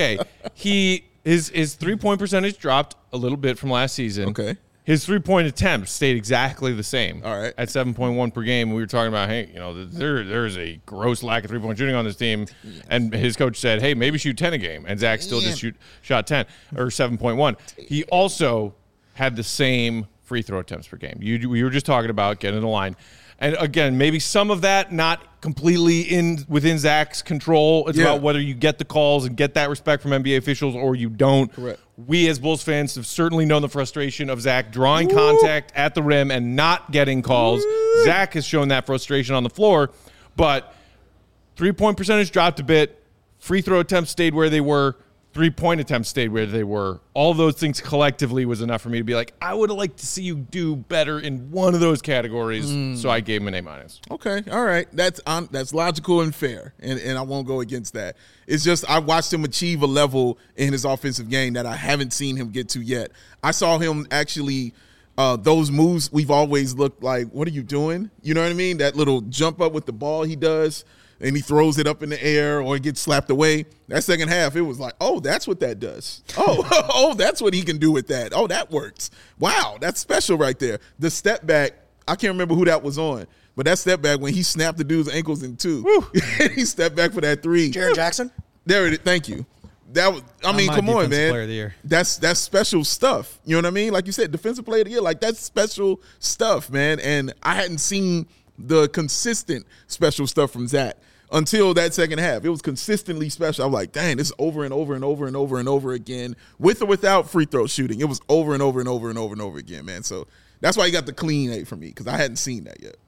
his 3-point percentage dropped a little bit from last season. Okay. His 3-point attempts stayed exactly the same. All right. At 7.1 per game. We were talking about, hey, there's a gross lack of 3-point shooting on this team. And his coach said, hey, maybe shoot 10 a game. And Zach still just shot 10 or 7.1. He also had the same free throw attempts per game. We were just talking about getting in the line. And again, maybe some of that not completely within Zach's control. It's about whether you get the calls and get that respect from NBA officials or you don't. Correct. We as Bulls fans have certainly known the frustration of Zach drawing contact at the rim and not getting calls. Zach has shown that frustration on the floor, but 3-point percentage dropped a bit. Free throw attempts stayed where they were. 3-point attempts stayed where they were. All of those things collectively was enough for me to be like, I would have liked to see you do better in one of those categories. So I gave him an A-. Okay, all right. That's logical and fair, and I won't go against that. It's just I watched him achieve a level in his offensive game that I haven't seen him get to yet. I saw him actually those moves we've always looked like, what are you doing? You know what I mean? That little jump up with the ball he does, and he throws it up in the air or it gets slapped away. That second half, it was like, oh, that's what that does. Oh, that's what he can do with that. Oh, that works. Wow, that's special right there. The step back, I can't remember who that was on, but that step back when he snapped the dude's ankles in two. He stepped back for that three. Jaren Jackson? There it is. Thank you. That was, I mean, come on, man. Player of the year. That's special stuff. You know what I mean? Like you said, defensive player of the year. Like, that's special stuff, man. And I hadn't seen the consistent special stuff from Zach until that second half. It was consistently special. I'm like, dang, this is over and over and over and over and over again, with or without free throw shooting. It was over and over and over and over and over again, man. So that's why he got the clean A for me, because I hadn't seen that yet.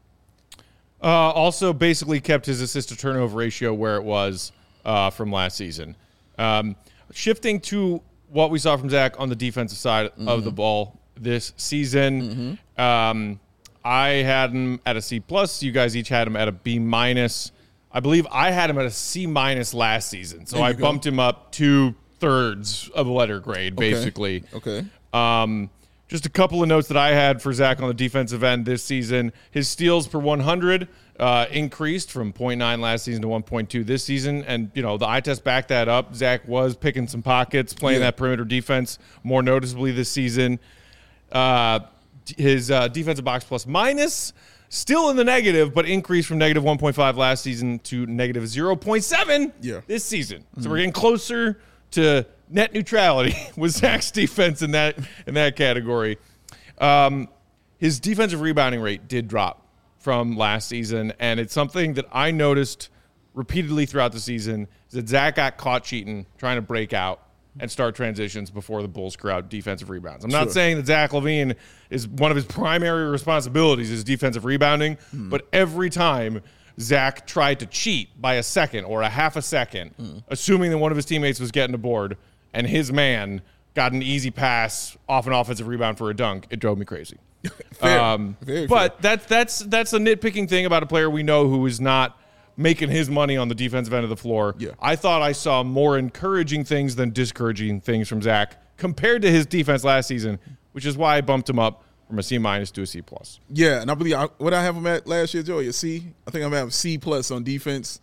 Also basically kept his assist to turnover ratio where it was from last season. Shifting to what we saw from Zach on the defensive side of the ball this season, I had him at a C+. You guys each had him at a B-. I believe I had him at a C- last season, so I bumped him up 2/3 of a letter grade, basically. Okay. Just a couple of notes that I had for Zach on the defensive end this season. His steals per 100 increased from 0.9 last season to 1.2 this season. And, the eye test backed that up. Zach was picking some pockets, playing that perimeter defense more noticeably this season. His defensive box plus minus, still in the negative, but increased from negative 1.5 last season to negative 0.7 this season. So we're getting closer to net neutrality with Zach's defense in that category. His defensive rebounding rate did drop from last season, and it's something that I noticed repeatedly throughout the season, is that Zach got caught cheating, trying to break out and start transitions before the Bulls crowd defensive rebounds. I'm not saying that Zach LaVine is one of his primary responsibilities is defensive rebounding, but every time Zach tried to cheat by a second or a half a second, assuming that one of his teammates was getting a board and his man got an easy pass off an offensive rebound for a dunk, it drove me crazy. But that's a nitpicking thing about a player we know who is not making his money on the defensive end of the floor. I thought I saw more encouraging things than discouraging things from Zach compared to his defense last season, which is why I bumped him up from a C- to a C+. Yeah, and I believe what I have him at last year, Joey, a C. I think I'm at a C+ on defense.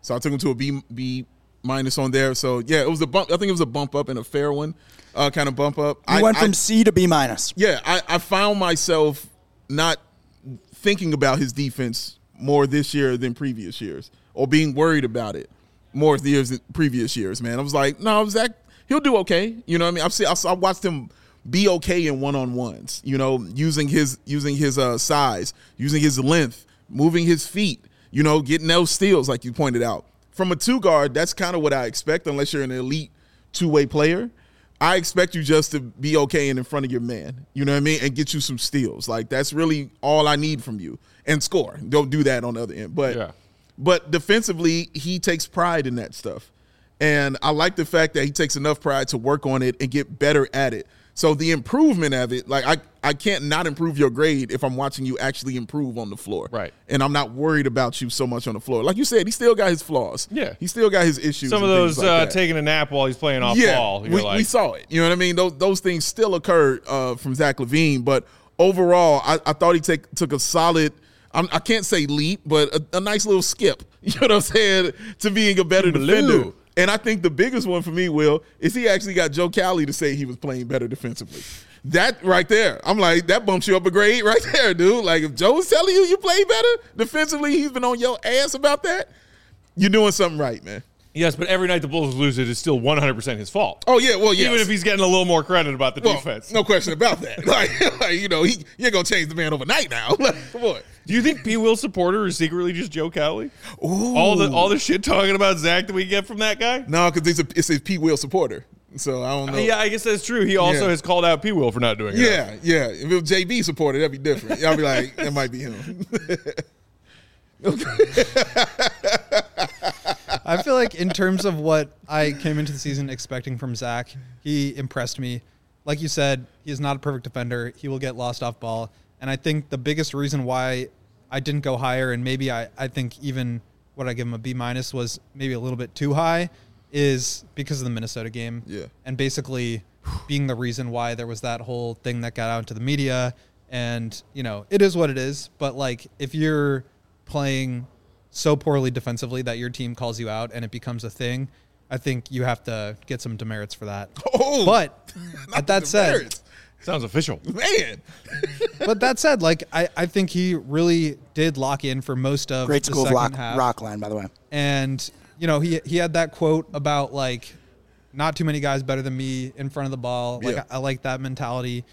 So I took him to a B minus on there. So yeah, it was a bump. I think it was a bump up and a fair one, kind of bump up. You went from C to B minus. Yeah, I found myself not thinking about his defense more this year than previous years, or being worried about it more than previous years. Man, I was like, no, Zach, he'll do okay. You know what I mean? I watched him be okay in one-on-ones. You know, using his size, using his length, moving his feet. You know, getting those steals like you pointed out. From a 2-guard, that's kind of what I expect unless you're an elite two-way player. I expect you just to be okay and in front of your man, you know what I mean, and get you some steals. Like, that's really all I need from you. And score. Don't do that on the other end. But defensively, he takes pride in that stuff. And I like the fact that he takes enough pride to work on it and get better at it. So the improvement of it, like I can't not improve your grade if I'm watching you actually improve on the floor. Right. And I'm not worried about you so much on the floor. Like you said, he still got his flaws. Yeah. He still got his issues. Some of those taking a nap while he's playing off ball. We saw it. You know what I mean? Those things still occurred from Zach LaVine. But overall, I thought he took a solid, I can't say leap, but a nice little skip, you know what I'm saying, to being a better defender. And I think the biggest one for me, Will, is he actually got Joe Cowley to say he was playing better defensively. That right there, I'm like, that bumps you up a grade right there, dude. Like, if Joe's telling you play better defensively, he's been on your ass about that, you're doing something right, man. Yes, but every night the Bulls lose, it is still 100% his fault. Oh, yeah, well, yeah. Even if he's getting a little more credit about the defense. No question about that. Like, you know, you ain't going to change the man overnight now. Like, come on. Do you think P. Will supporter is secretly just Joe Cowley? Ooh. All the shit talking about Zach that we get from that guy? No, because it's a P. Will supporter. So I don't know. Yeah, I guess that's true. He also has called out P. Will for not doing it. Yeah. If it was JB supporter, that'd be different. I'll be like, that might be him. I feel like in terms of what I came into the season expecting from Zach, he impressed me. Like you said, he is not a perfect defender. He will get lost off ball. And I think the biggest reason why I didn't go higher, and maybe I think even what I give him a B minus was maybe a little bit too high, is because of the Minnesota game. Yeah. And basically being the reason why there was that whole thing that got out into the media. And, you know, it is what it is. But, like, if you're playing so poorly defensively that your team calls you out and it becomes a thing, I think you have to get some demerits for that. Oh, but at that said, sounds official, man. But that said, like I think he really did lock in for most of Great the school of second half. Rockland, by the way. And you know he had that quote about like not too many guys better than me in front of the ball. Like Yeah. I like that mentality.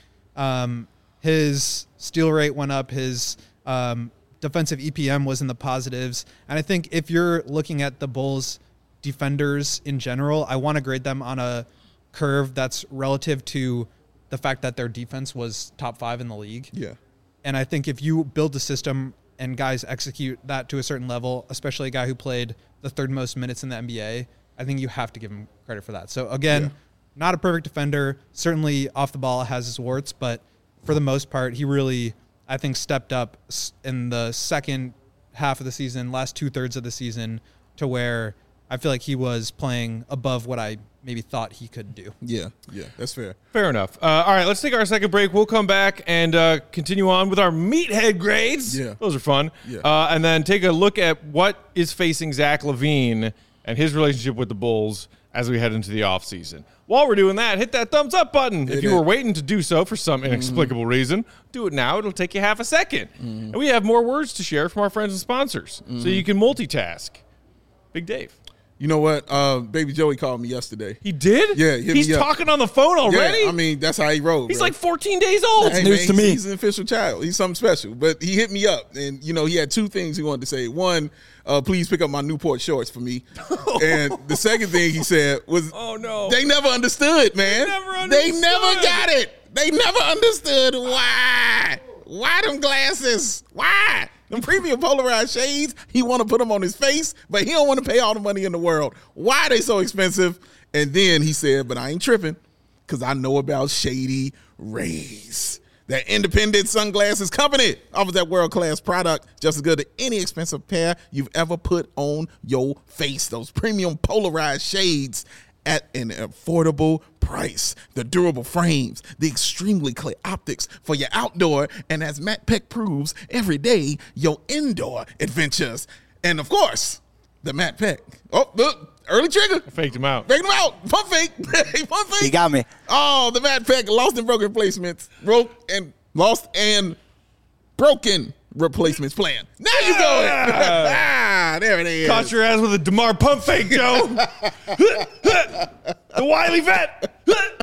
His steal rate went up. His defensive EPM was in the positives. And I think if you're looking at the Bulls defenders in general, I want to grade them on a curve that's relative to the fact that their defense was top 5 in the league. Yeah. And I think if you build a system and guys execute that to a certain level, especially a guy who played the third most minutes in the NBA, I think you have to give him credit for that. So again, not a perfect defender, certainly off the ball has his warts, but for the most part, he really, I think, stepped up in the second half of the season, last 2/3 of the season, to where I feel like he was playing above what I maybe thought he could do. Yeah, that's fair. Fair enough. All right, let's take our second break. We'll come back and continue on with our meathead grades. Yeah. Those are fun. Yeah. And then take a look at what is facing Zach LaVine and his relationship with the Bulls as we head into the offseason. While we're doing that, hit that thumbs up button. If you were waiting to do so for some inexplicable reason, do it now. It'll take you half a second. And we have more words to share from our friends and sponsors, so you can multitask. Big Dave. You know what? Baby Joey called me yesterday. He did? Yeah, hit He's me up. talking on the phone already? Yeah, I mean, that's how he rolled. He's bro. like 14 days old. Hey, news to me. He's an official child. He's something special. But he hit me up, and, you know, he had two things he wanted to say. One, please pick up my Newport shorts for me. And the second thing he said was, Oh, no. they never understood, man. They never got it. They never understood why. Why them glasses? Why? Them premium polarized shades, he want to put them on his face, but he don't want to pay all the money in the world. Why they so expensive? And then he said, but I ain't tripping because I know about Shady Rays. That independent sunglasses company offers that world-class product just as good as any expensive pair you've ever put on your face. Those premium polarized shades at an affordable price. The durable frames, the extremely clear optics for your outdoor, and as Matt Peck proves, every day, your indoor adventures. And of course, the Matt Peck. Oh, look, early trigger. Faked him out. Faked him out. Pump fake. Pump fake. He got me. Oh, the Matt Peck lost and broken replacements. Lost and broken replacements plan. Now you go. There it is. Caught your ass with a DeMar pump fake, Joe. The wily vet.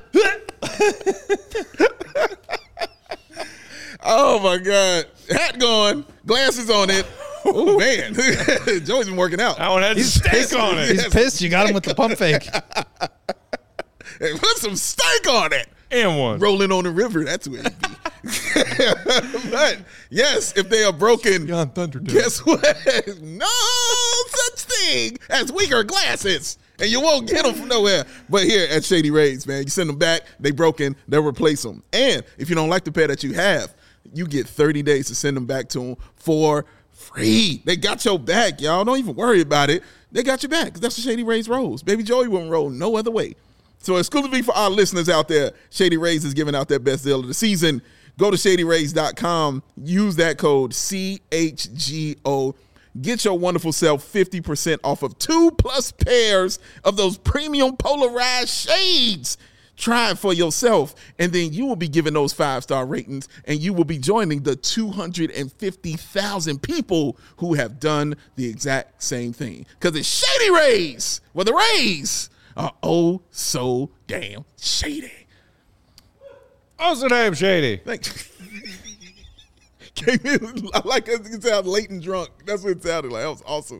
Oh my God. Hat going. Glasses on it. Oh man. Joey's been working out. That one had steak on it. He's pissed. You got him with the pump fake. Hey, put some steak on it. And one. Rolling on the river. That's where it'd be. But yes, if they are broken, Beyond Thunderdome. guess what? No such thing as weaker glasses. And you won't get them from nowhere. But here at Shady Rays, man, you send them back, they broken, they'll replace them. And if you don't like the pair that you have, you get 30 days to send them back to them for free. They got your back, y'all. Don't even worry about it. They got your back because that's the Shady Rays rolls. Baby Joey wouldn't roll no other way. So exclusively for our listeners out there, Shady Rays is giving out their best deal of the season. Go to ShadyRays.com. Use that code CHGO. Get your wonderful self 50% off of 2+ pairs of those premium polarized shades. Try it for yourself, and then you will be given those 5-star ratings, and you will be joining the 250,000 people who have done the exact same thing. Because it's Shady Rays, where the Rays are oh so damn shady. Oh, so damn shady. Came in, I like it sounded late and drunk. That's what it sounded like. That was awesome.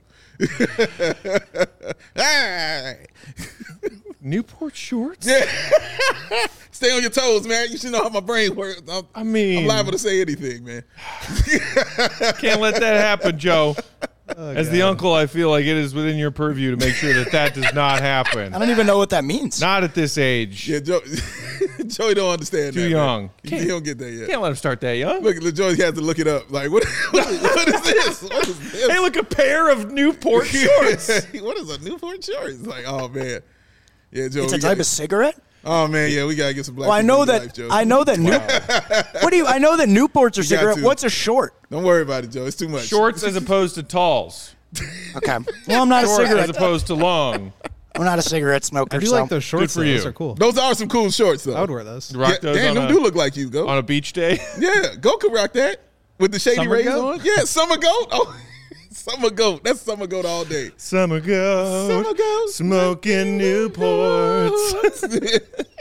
Newport shorts? Yeah. Stay on your toes, man. You should know how my brain works. I'm liable to say anything, man. Can't let that happen, Joe. As the uncle, I feel like it is within your purview to make sure that that does not happen. I don't even know what that means. Not at this age. Yeah, Joey don't understand Too that. young. He don't get that yet. Can't let him start that young. Look, Joey has to look it up. Like, what is this? What is this? Hey, look, a pair of Newport shorts. What is a Newport short? It's like, oh, man. Yeah, Joey. It's a type of cigarette? Oh, man, yeah, we got to get some black Well, I people know in your life, that. Joe. I know that. I know that Newports are You got cigarette. to. What's a short? Don't worry about it, Joe. It's too much. Shorts as opposed to talls. Okay. Well, I'm not a Short as cigarette. opposed to long. I'm not a cigarette smoker. I do so. like those shorts. for though. you. Those are cool. Those are some cool shorts, though. I would wear those. Rock Yeah, those damn, on them a, do look like you, go. on a beach day. Yeah, go could rock that with the Shady Summer Rays goat? on. Yeah, summer goat. Oh, summer goat. That's summer goat all day. Summer goat. Summer goat. Smoking Newports.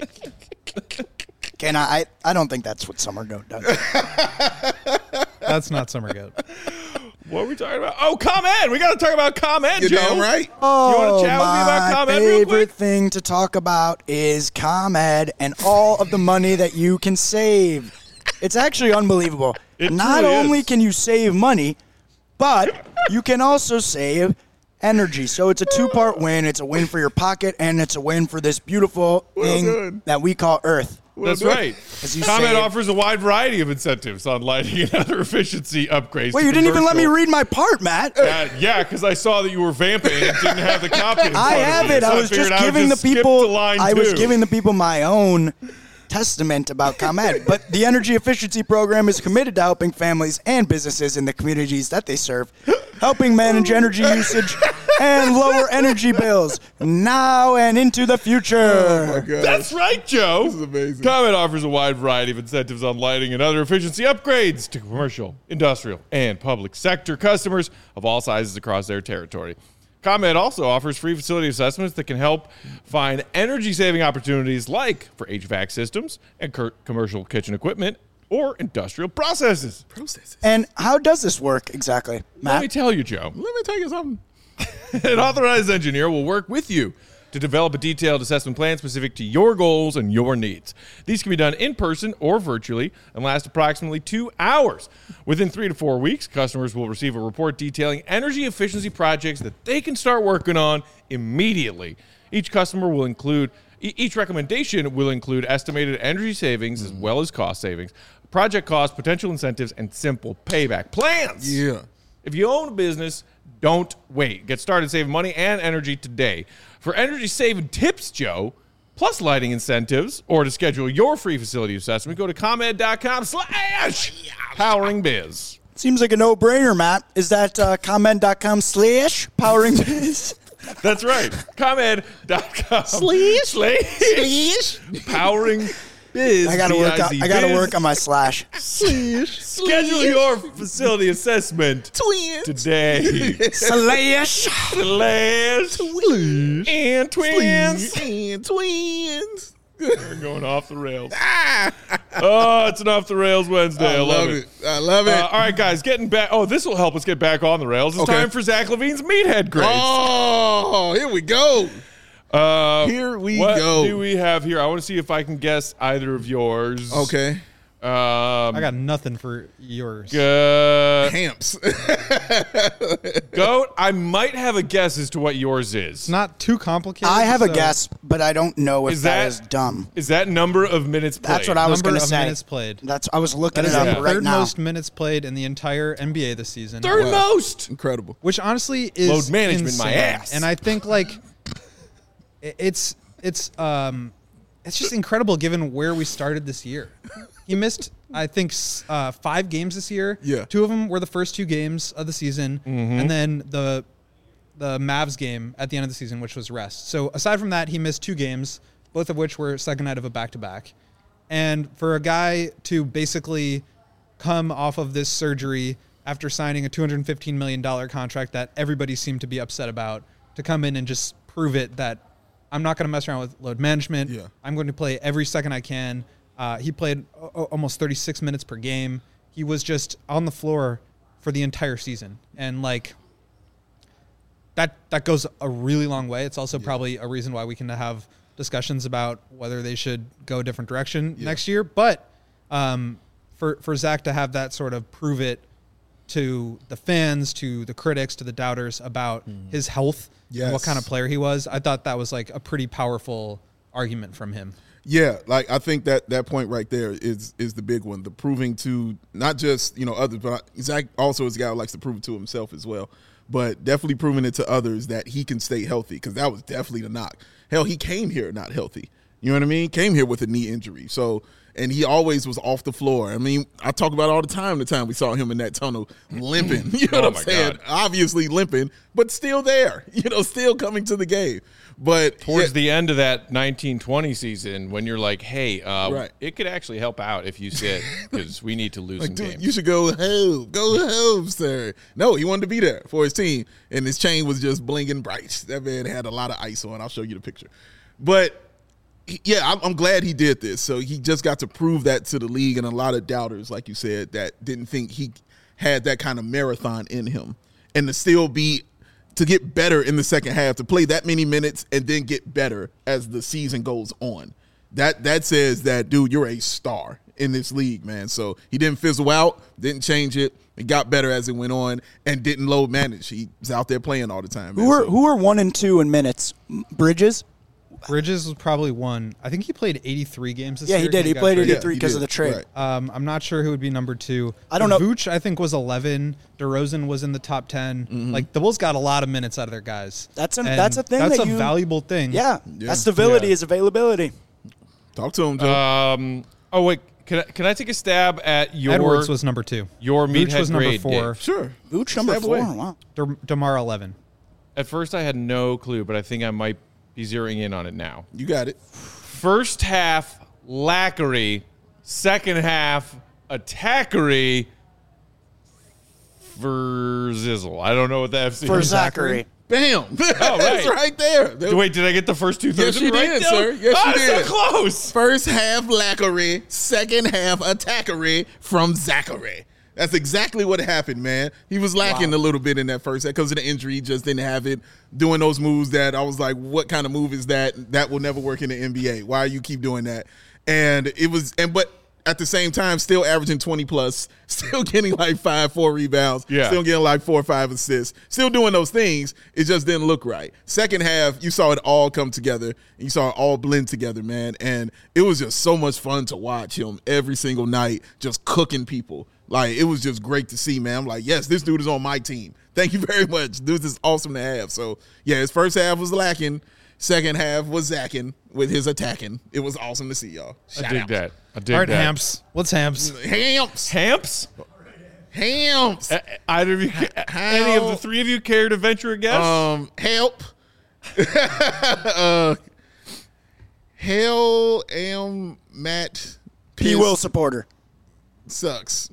Can I don't think that's what Summer Goat does. That's not summer goat. What are we talking about? Oh, ComEd. We got to talk about ComEd, You Joe. damn right. Oh, chat with me about my ComEd real favorite quick? thing to talk about is ComEd and all of the money that you can save. It's actually unbelievable. It Not truly only is. can you save money, but you can also save energy. So it's a two-part win. It's a win for your pocket, and it's a win for this beautiful thing done. that we call Earth. That's done. right. As you ComEd save- offers a wide variety of incentives on lighting and other efficiency upgrades. Wait, to you didn't even let me commercial- read my part, Matt. Yeah, because I saw that you were vamping and didn't have the copy. in I front of have you, it. so I was figured just would giving the skip people. to line I was two. giving the people my own testament about ComEd. But the energy efficiency program is committed to helping families and businesses in the communities that they serve, helping manage energy usage and lower energy bills now and into the future. Oh, my God. That's right, Joe. This is amazing. ComEd offers a wide variety of incentives on lighting and other efficiency upgrades to commercial, industrial, and public sector customers of all sizes across their territory. ComEd also offers free facility assessments that can help find energy-saving opportunities like for HVAC systems and commercial kitchen equipment or industrial processes. And how does this work exactly, Let me Matt? tell you, Joe. Let me tell you something. An authorized engineer will work with you to develop a detailed assessment plan specific to your goals and your needs. These can be done in person or virtually and last approximately 2 hours. Within 3 to 4 weeks, customers will receive a report detailing energy efficiency projects that they can start working on immediately. Each recommendation will include estimated energy savings as well as cost savings, project costs, potential incentives, and simple payback plans. Yeah. If you own a business, don't wait. Get started saving money and energy today. For energy saving tips, Joe, plus lighting incentives, or to schedule your free facility assessment, go to ComEd.com/poweringbiz. Seems like a no-brainer, Matt. Is that comment.com/poweringbiz? That's right. ComEd.com. Slash. Powering Biz. I gotta work. B-I-Z, I gotta Biz. work on my slash. Schedule your facility assessment Twins. today. Slash. And twins. And twins. We're going off the rails. Oh, it's an off the rails Wednesday. I love it. I love it. All right, guys, getting back. Oh, this will help us get back on the rails. It's Okay. time for Zach Levine's Meathead grades. Oh, here we go. Here we what go. do we have here? I want to see if I can guess either of yours. Okay. I got nothing for yours. Hamps. Goat, I might have a guess as to what yours is. It's not too complicated. I have a so guess, but I don't know if Is that that- is dumb. Is that number of minutes played? That's what I was number going to of say. minutes played. I was looking That is it the up right third now. most minutes played in the entire NBA this season. Third most. Incredible. Which honestly is Load management, my insane. ass. And I think like it's just incredible given where we started this year. He missed, I think, 5 games this year. Yeah. 2 of them were the first 2 games of the season, and then the Mavs game at the end of the season, which was rest. So aside from that, he missed 2 games, both of which were second night of a back-to-back. And for a guy to basically come off of this surgery after signing a $215 million contract that everybody seemed to be upset about, to come in and just prove it that I'm not going to mess around with load management. Yeah. I'm going to play every second I can. He played almost 36 minutes per game. He was just on the floor for the entire season. And like that goes a really long way. It's also probably a reason why we can have discussions about whether they should go a different direction next year. But for Zach to have that sort of prove it to the fans, to the critics, to the doubters about his health and what Yes. kind of player he was, I thought that was like a pretty powerful argument from him. Yeah, like I think that point right there is the big one. The proving to not just others, but Zach also is a guy who likes to prove it to himself as well. But definitely proving it to others that he can stay healthy, because that was definitely the knock. Hell, he came here not healthy. You know what I mean? Came here with a knee injury. So, and he always was off the floor. I mean, I talk about it all the time we saw him in that tunnel limping. You know Oh what I'm my saying? God. Obviously limping, but still there. Still coming to the game. But Towards the end of that 1920 season, when you're like, hey, Right. it could actually help out if you sit, because we need to lose some dude, games. you should go home, sir. No, he wanted to be there for his team, and his chain was just blinging bright. That man had a lot of ice on. I'll show you the picture. But yeah, I'm glad he did this. So he just got to prove that to the league, and a lot of doubters, like you said, that didn't think he had that kind of marathon in him, and to get better in the second half, to play that many minutes and then get better as the season goes on. That says that, dude, you're a star in this league, man. So he didn't fizzle out, didn't change it. He got better as it went on and didn't load manage. He was out there playing all the time. Man. Who are 1 and 2 in minutes? Bridges? Bridges was probably one. I think he played 83 games this Yeah, year. he did. He got played traded. 83 because of the trade. Right. I'm not sure who would be number 2. I don't know. Vooch, I think, was 11. DeRozan was in the top 10. Like, the Bulls got a lot of minutes out of their guys. That's a And thing That's that a you- valuable thing. Yeah, Yeah. that's stability Yeah. is availability. Talk to him, Joe. Oh, wait. Can I take a stab at your Edwards was number 2. your Vooch meathead was number grade, 4. Dave? Sure. Vooch number Step 4. away. Wow. DeMar 11. At first, I had no clue, but I think I might be zeroing in on it now. You got it. First half, lackery. Second half, attackery. For Zizzle. I don't know what that For Zachary. Bam. That's right there. Wait, did I get the first 2/3 Yes, you right did, now? sir. Yes, you did. So close. First half lackery, second half attackery from Zachary. That's exactly what happened, man. He was lacking a little bit in that first half because of the injury. He just didn't have it doing those moves that I was like, what kind of move is that? That will never work in the NBA. Why you keep doing that? And it was, but at the same time, still averaging 20 plus, still getting like 4 rebounds, still getting like 4 or 5 assists, still doing those things. It just didn't look right. Second half, you saw it all come together. You saw it all blend together, man. And it was just so much fun to watch him every single night, just cooking people. Like, it was just great to see, man. I'm like, yes, this dude is on my team. Thank you very much. This is awesome to have. So, yeah, his first half was lacking. Second half was Zacking with his attacking. It was awesome to see, y'all. I dig that. All right, Hamps. What's Hamps? Hamps. Hamps? Hams. Either of you, any of the three of you care to venture a guess? Help. Hell am Matt P. Will supporter. sucks.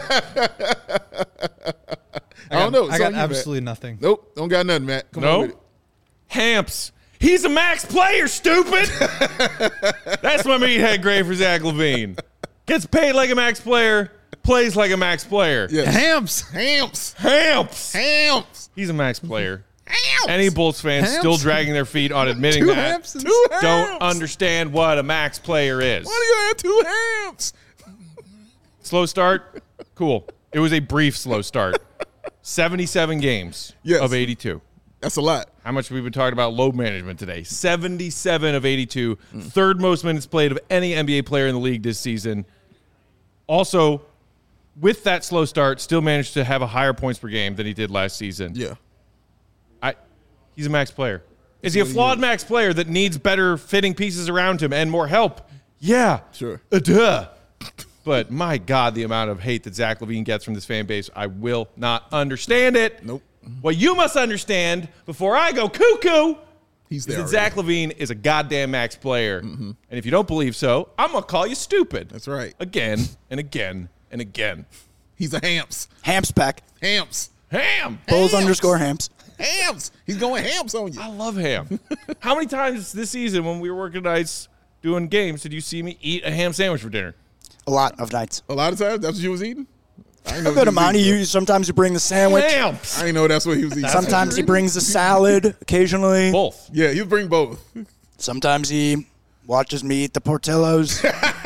I don't know. I got absolutely nothing. Nope. Don't got nothing, Matt. Come on No? with it. Hamps. He's a max player, stupid. That's my meathead grade for Zach LaVine. Gets paid like a max player, plays like a max player. Yes. Hams. Hamps. He's a max player. Any Bulls fans Hamps? still dragging their feet on admitting Two that Hamps and don't understand what a max player is. Why do you have two Hams? Slow start? Cool. It was a brief slow start. 77 games Yes. of 82. That's a lot. How much have we been talking about load management today? 77 of 82. Third most minutes played of any NBA player in the league this season. Also, with that slow start, still managed to have a higher points per game than he did last season. Yeah. He's a max player. Is he a flawed max player that needs better fitting pieces around him and more help? Yeah. Sure. Duh. But my God, the amount of hate that Zach LaVine gets from this fan base, I will not understand it. Nope. What you must understand before I go cuckoo He's is there. that Zach LaVine is a goddamn max player. And if you don't believe so, I'm going to call you stupid. That's right. Again and again and again. He's a Hams. Hamps pack. Hams. Ham. Bulls _ Hamps. Hams. He's going Hams on you. I love ham. How many times this season when we were working nights doing games did you see me eat a ham sandwich for dinner? A lot of nights. A lot of times, that's what you was eating? I didn't know A good amount. Sometimes he brings the sandwich. Hams. I didn't know that's what he was eating. Sometimes he brings the salad. Occasionally. Both. Yeah, he'll bring both. Sometimes he watches me eat the Portillos.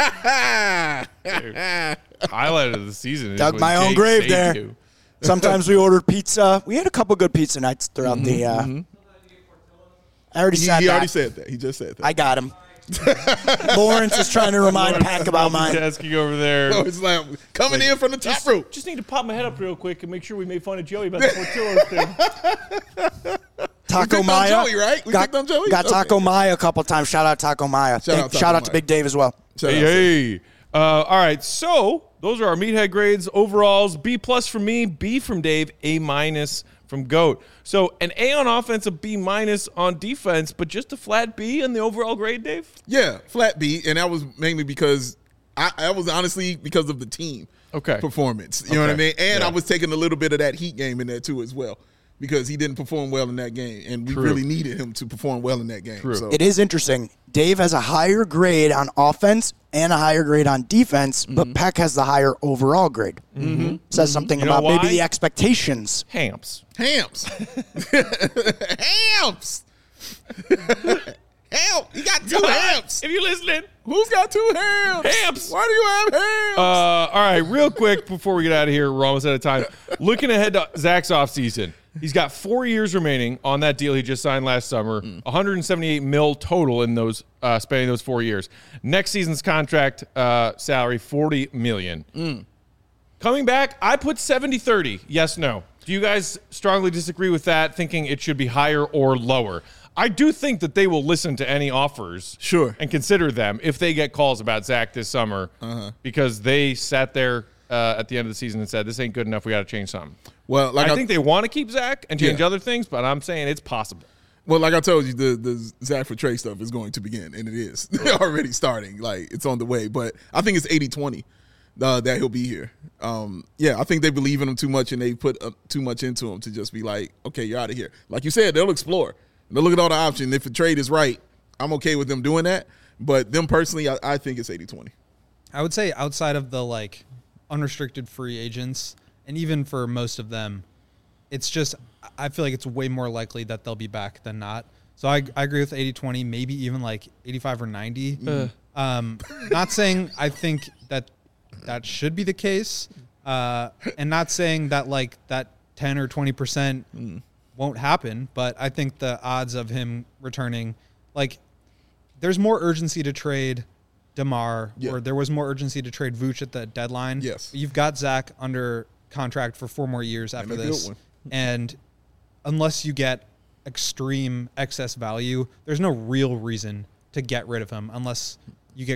Highlight of the season. is Dug when my own Jake grave saved there. you. Sometimes we ordered pizza. We had a couple good pizza nights throughout the. I already said He that. already said that. He just said that. I got him. Lawrence is trying to remind Pack about mine. Multitasking over there. So it's like coming in from the top rope. Just need to pop my head up real quick and make sure we made fun of Joey about the Portillo's thing. Taco picked on Maya. Joey, right? We picked on Joey? Got Okay. Taco Maya a couple times. Shout out Taco Maya. Shout out Taco Shout out to Maya. Big Dave as well. Shout out, sir. Hey. All right. So those are our meathead grades. Overalls, B+ from me, B from Dave, A- from GOAT. So an A on offense, a B- on defense, but just a flat B in the overall grade, Dave? Yeah, flat B, and that was mainly because I was honestly because of the team performance. You know what I Okay. mean? And Yeah. I was taking a little bit of that Heat game in there too as well because he didn't perform well in that game, and we True. really needed him to perform well in that game. True. So It is interesting. Dave has a higher grade on offense and a higher grade on defense, but Peck has the higher overall grade. Says something You know about maybe why? the expectations. Hamps. Hams, Hams, Hell, he got two Hams. If you're listening. Who's got two Hams? Hams. Why do you have Hams? All right, real quick before we get out of here, we're almost out of time. Looking ahead to Zach's offseason, he's got 4 years remaining on that deal he just signed last summer. 178 mil total in those spanning those 4 years. Next season's contract salary, $40 million. Coming back, I put 70-30. Yes, no. Do you guys strongly disagree with that, thinking it should be higher or lower? I do think that they will listen to any offers Sure. and consider them if they get calls about Zach this summer because they sat there at the end of the season and said, this ain't good enough. We got to change something. Well, like I think they want to keep Zach and change Yeah. other things, but I'm saying it's possible. Well, like I told you, the Zach for Trey stuff is going to begin, and it is already starting. Like, it's on the way. But I think it's 80-20 that he'll be here. Yeah, I think they believe in him too much, and they put too much into him to just be like, okay, you're out of here. Like you said, they'll explore. They'll look at all the options. If the trade is right, I'm okay with them doing that. But them personally, I think it's 80-20. I would say outside of the like unrestricted free agents, and even for most of them, it's just I feel like it's way more likely that they'll be back than not. So I agree with 80-20, maybe even like 85 or 90. Not saying I think that should be the case, and not saying that like that 10 or 20% won't happen, but I think the odds of him returning, like, there's more urgency to trade DeMar, Yeah. or there was more urgency to trade Vooch at the deadline. Yes. You've got Zach under contract for 4 more years after a good this. one. And unless you get extreme excess value, there's no real reason to get rid of him unless you get great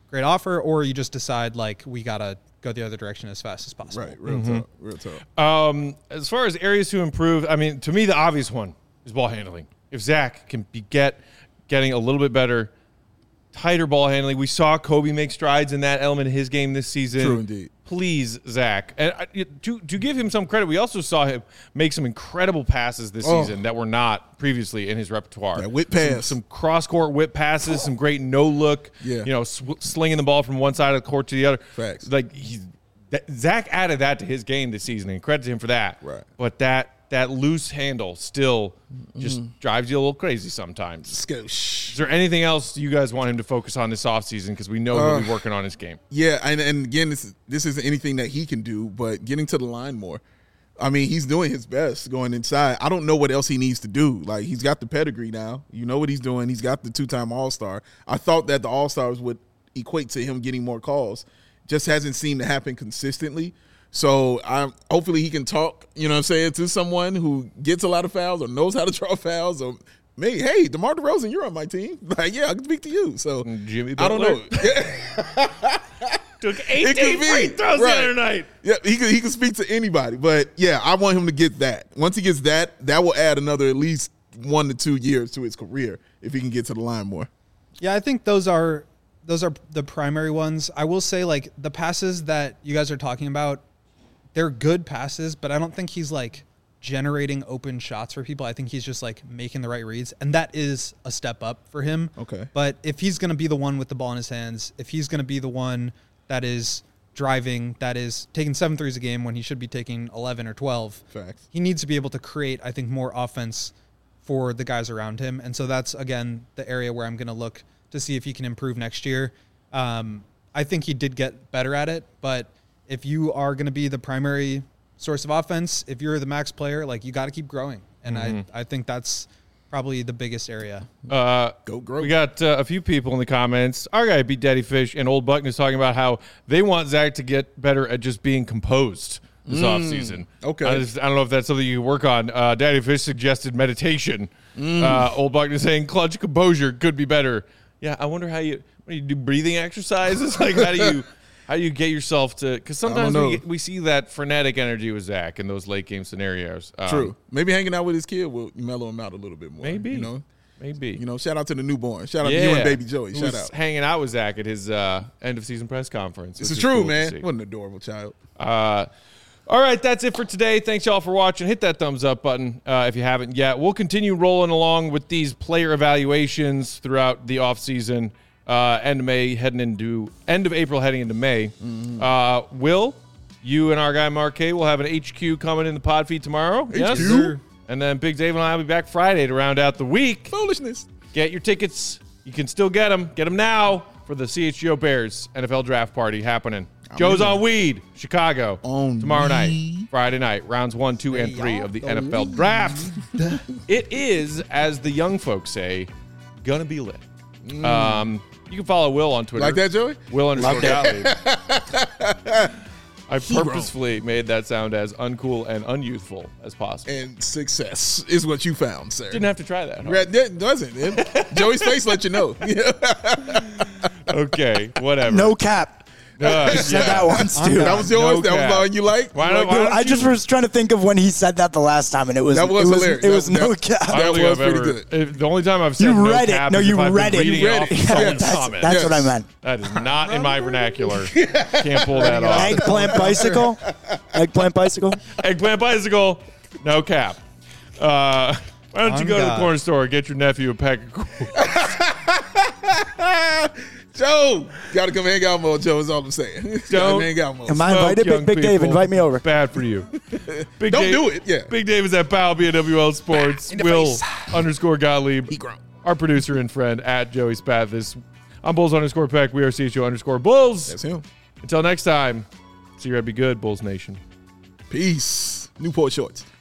great offer, or you just decide like we gotta go the other direction as fast as possible. Right, real talk. As far as areas to improve, I mean, to me, the obvious one is ball handling. If Zach can be getting a little bit better, tighter ball handling. We saw Kobe make strides in that element of his game this season. True indeed. Please, Zach. And to give him some credit, we also saw him make some incredible passes this season that were not previously in his repertoire. That whip pass. Some cross-court whip passes, some great no-look, slinging the ball from one side of the court to the other. Facts. Like, Zach added that to his game this season, and credit to him for that. Right. But that loose handle still just drives you a little crazy sometimes. Is there anything else you guys want him to focus on this offseason? Because we know he'll be working on his game. Yeah, and again, this isn't anything that he can do, but getting to the line more. I mean, he's doing his best going inside. I don't know what else he needs to do. Like, he's got the pedigree now. You know what he's doing. He's got the 2-time All-Star. I thought that the All-Stars would equate to him getting more calls. Just hasn't seemed to happen consistently. So hopefully he can talk, you know what I'm saying, to someone who gets a lot of fouls or knows how to draw fouls, or maybe, hey, DeMar DeRozan, you're on my team. Like, yeah, I can speak to you. So Jimmy I don't Butler. know. Took 18 free throws the other night. Yeah, he can speak to anybody. But yeah, I want him to get that. Once he gets that will add another at least 1 to 2 years to his career if he can get to the line more. Yeah, I think those are the primary ones. I will say, like, the passes that you guys are talking about, they're good passes, but I don't think he's like generating open shots for people. I think he's just like making the right reads, and that is a step up for him. Okay. But if he's going to be the one with the ball in his hands, if he's going to be the one that is driving, that is taking 7 threes a game when he should be taking 11 or 12, Facts. he needs to be able to create, I think, more offense for the guys around him. And so that's, again, the area where I'm going to look to see if he can improve next year. I think he did get better at it, but if you are going to be the primary source of offense, if you're the max player, like, you got to keep growing. And I think that's probably the biggest area. Go grow. We got a few people in the comments. Our guy Beat Daddy Fish and Old Buckner is talking about how they want Zach to get better at just being composed this offseason. Okay. I don't know if that's something you can work on. Daddy Fish suggested meditation. Old Buckner saying clutch composure could be better. Yeah, I wonder how you do breathing exercises. Like, how do you get yourself to? Because sometimes we see that frenetic energy with Zach in those late game scenarios. True. Maybe hanging out with his kid will mellow him out a little bit more. Maybe. Maybe. Shout out to the newborn. Shout out to you and baby Joey. Who Shout was out. hanging out with Zach at his end of season press conference. This is true, man. What an adorable child. All right, that's it for today. Thanks, y'all, for watching. Hit that thumbs up button if you haven't yet. We'll continue rolling along with these player evaluations throughout the offseason. End of April, heading into May. Will, you and our guy Mark K will have an HQ coming in the pod feed tomorrow. Yes, HQ? And then Big Dave and I will be back Friday to round out the week. Foolishness. Get your tickets. You can still get them. Get them now for the CHGO Bears NFL draft party happening. Joe's on weed, Chicago, tomorrow night, Friday night, rounds 1, 2, and 3 of the NFL draft. It is, as the young folks say, gonna be lit. You can follow Will on Twitter. Like that, Joey? Will_Gottlieb. I purposefully made that sound as uncool and unyouthful as possible. And success is what you found, sir. Didn't have to try that. That doesn't. Joey's face let you know. Okay, whatever. No cap. I said that once too. That was yours. That was the one you liked. I just was trying to think of when he said that the last time, and it was hilarious. It was no cap. That was pretty good. The only time I've said you no read cap it. No, is you if I've read been it. reading off someone's comment. That's what I meant. That is not in my vernacular. Can't pull that off. Eggplant bicycle. Eggplant bicycle. Eggplant bicycle. No cap. Why don't you go to the corner store and get your nephew a pack of Coors? Joe, gotta come hang out more, Joe, is all I'm saying. Don't hang out more. Am I invited? Big Dave, invite me over. Bad for you. Don't do it, yeah. Big Dave is at Powell BWL Sports. Will _Gottlieb. He grown. Our producer and friend at Joey Spathis. I'm Bulls_Peck. We are CHO_Bulls. That's him. Until next time, see you. Be good, Bulls Nation. Peace. Newport Shorts.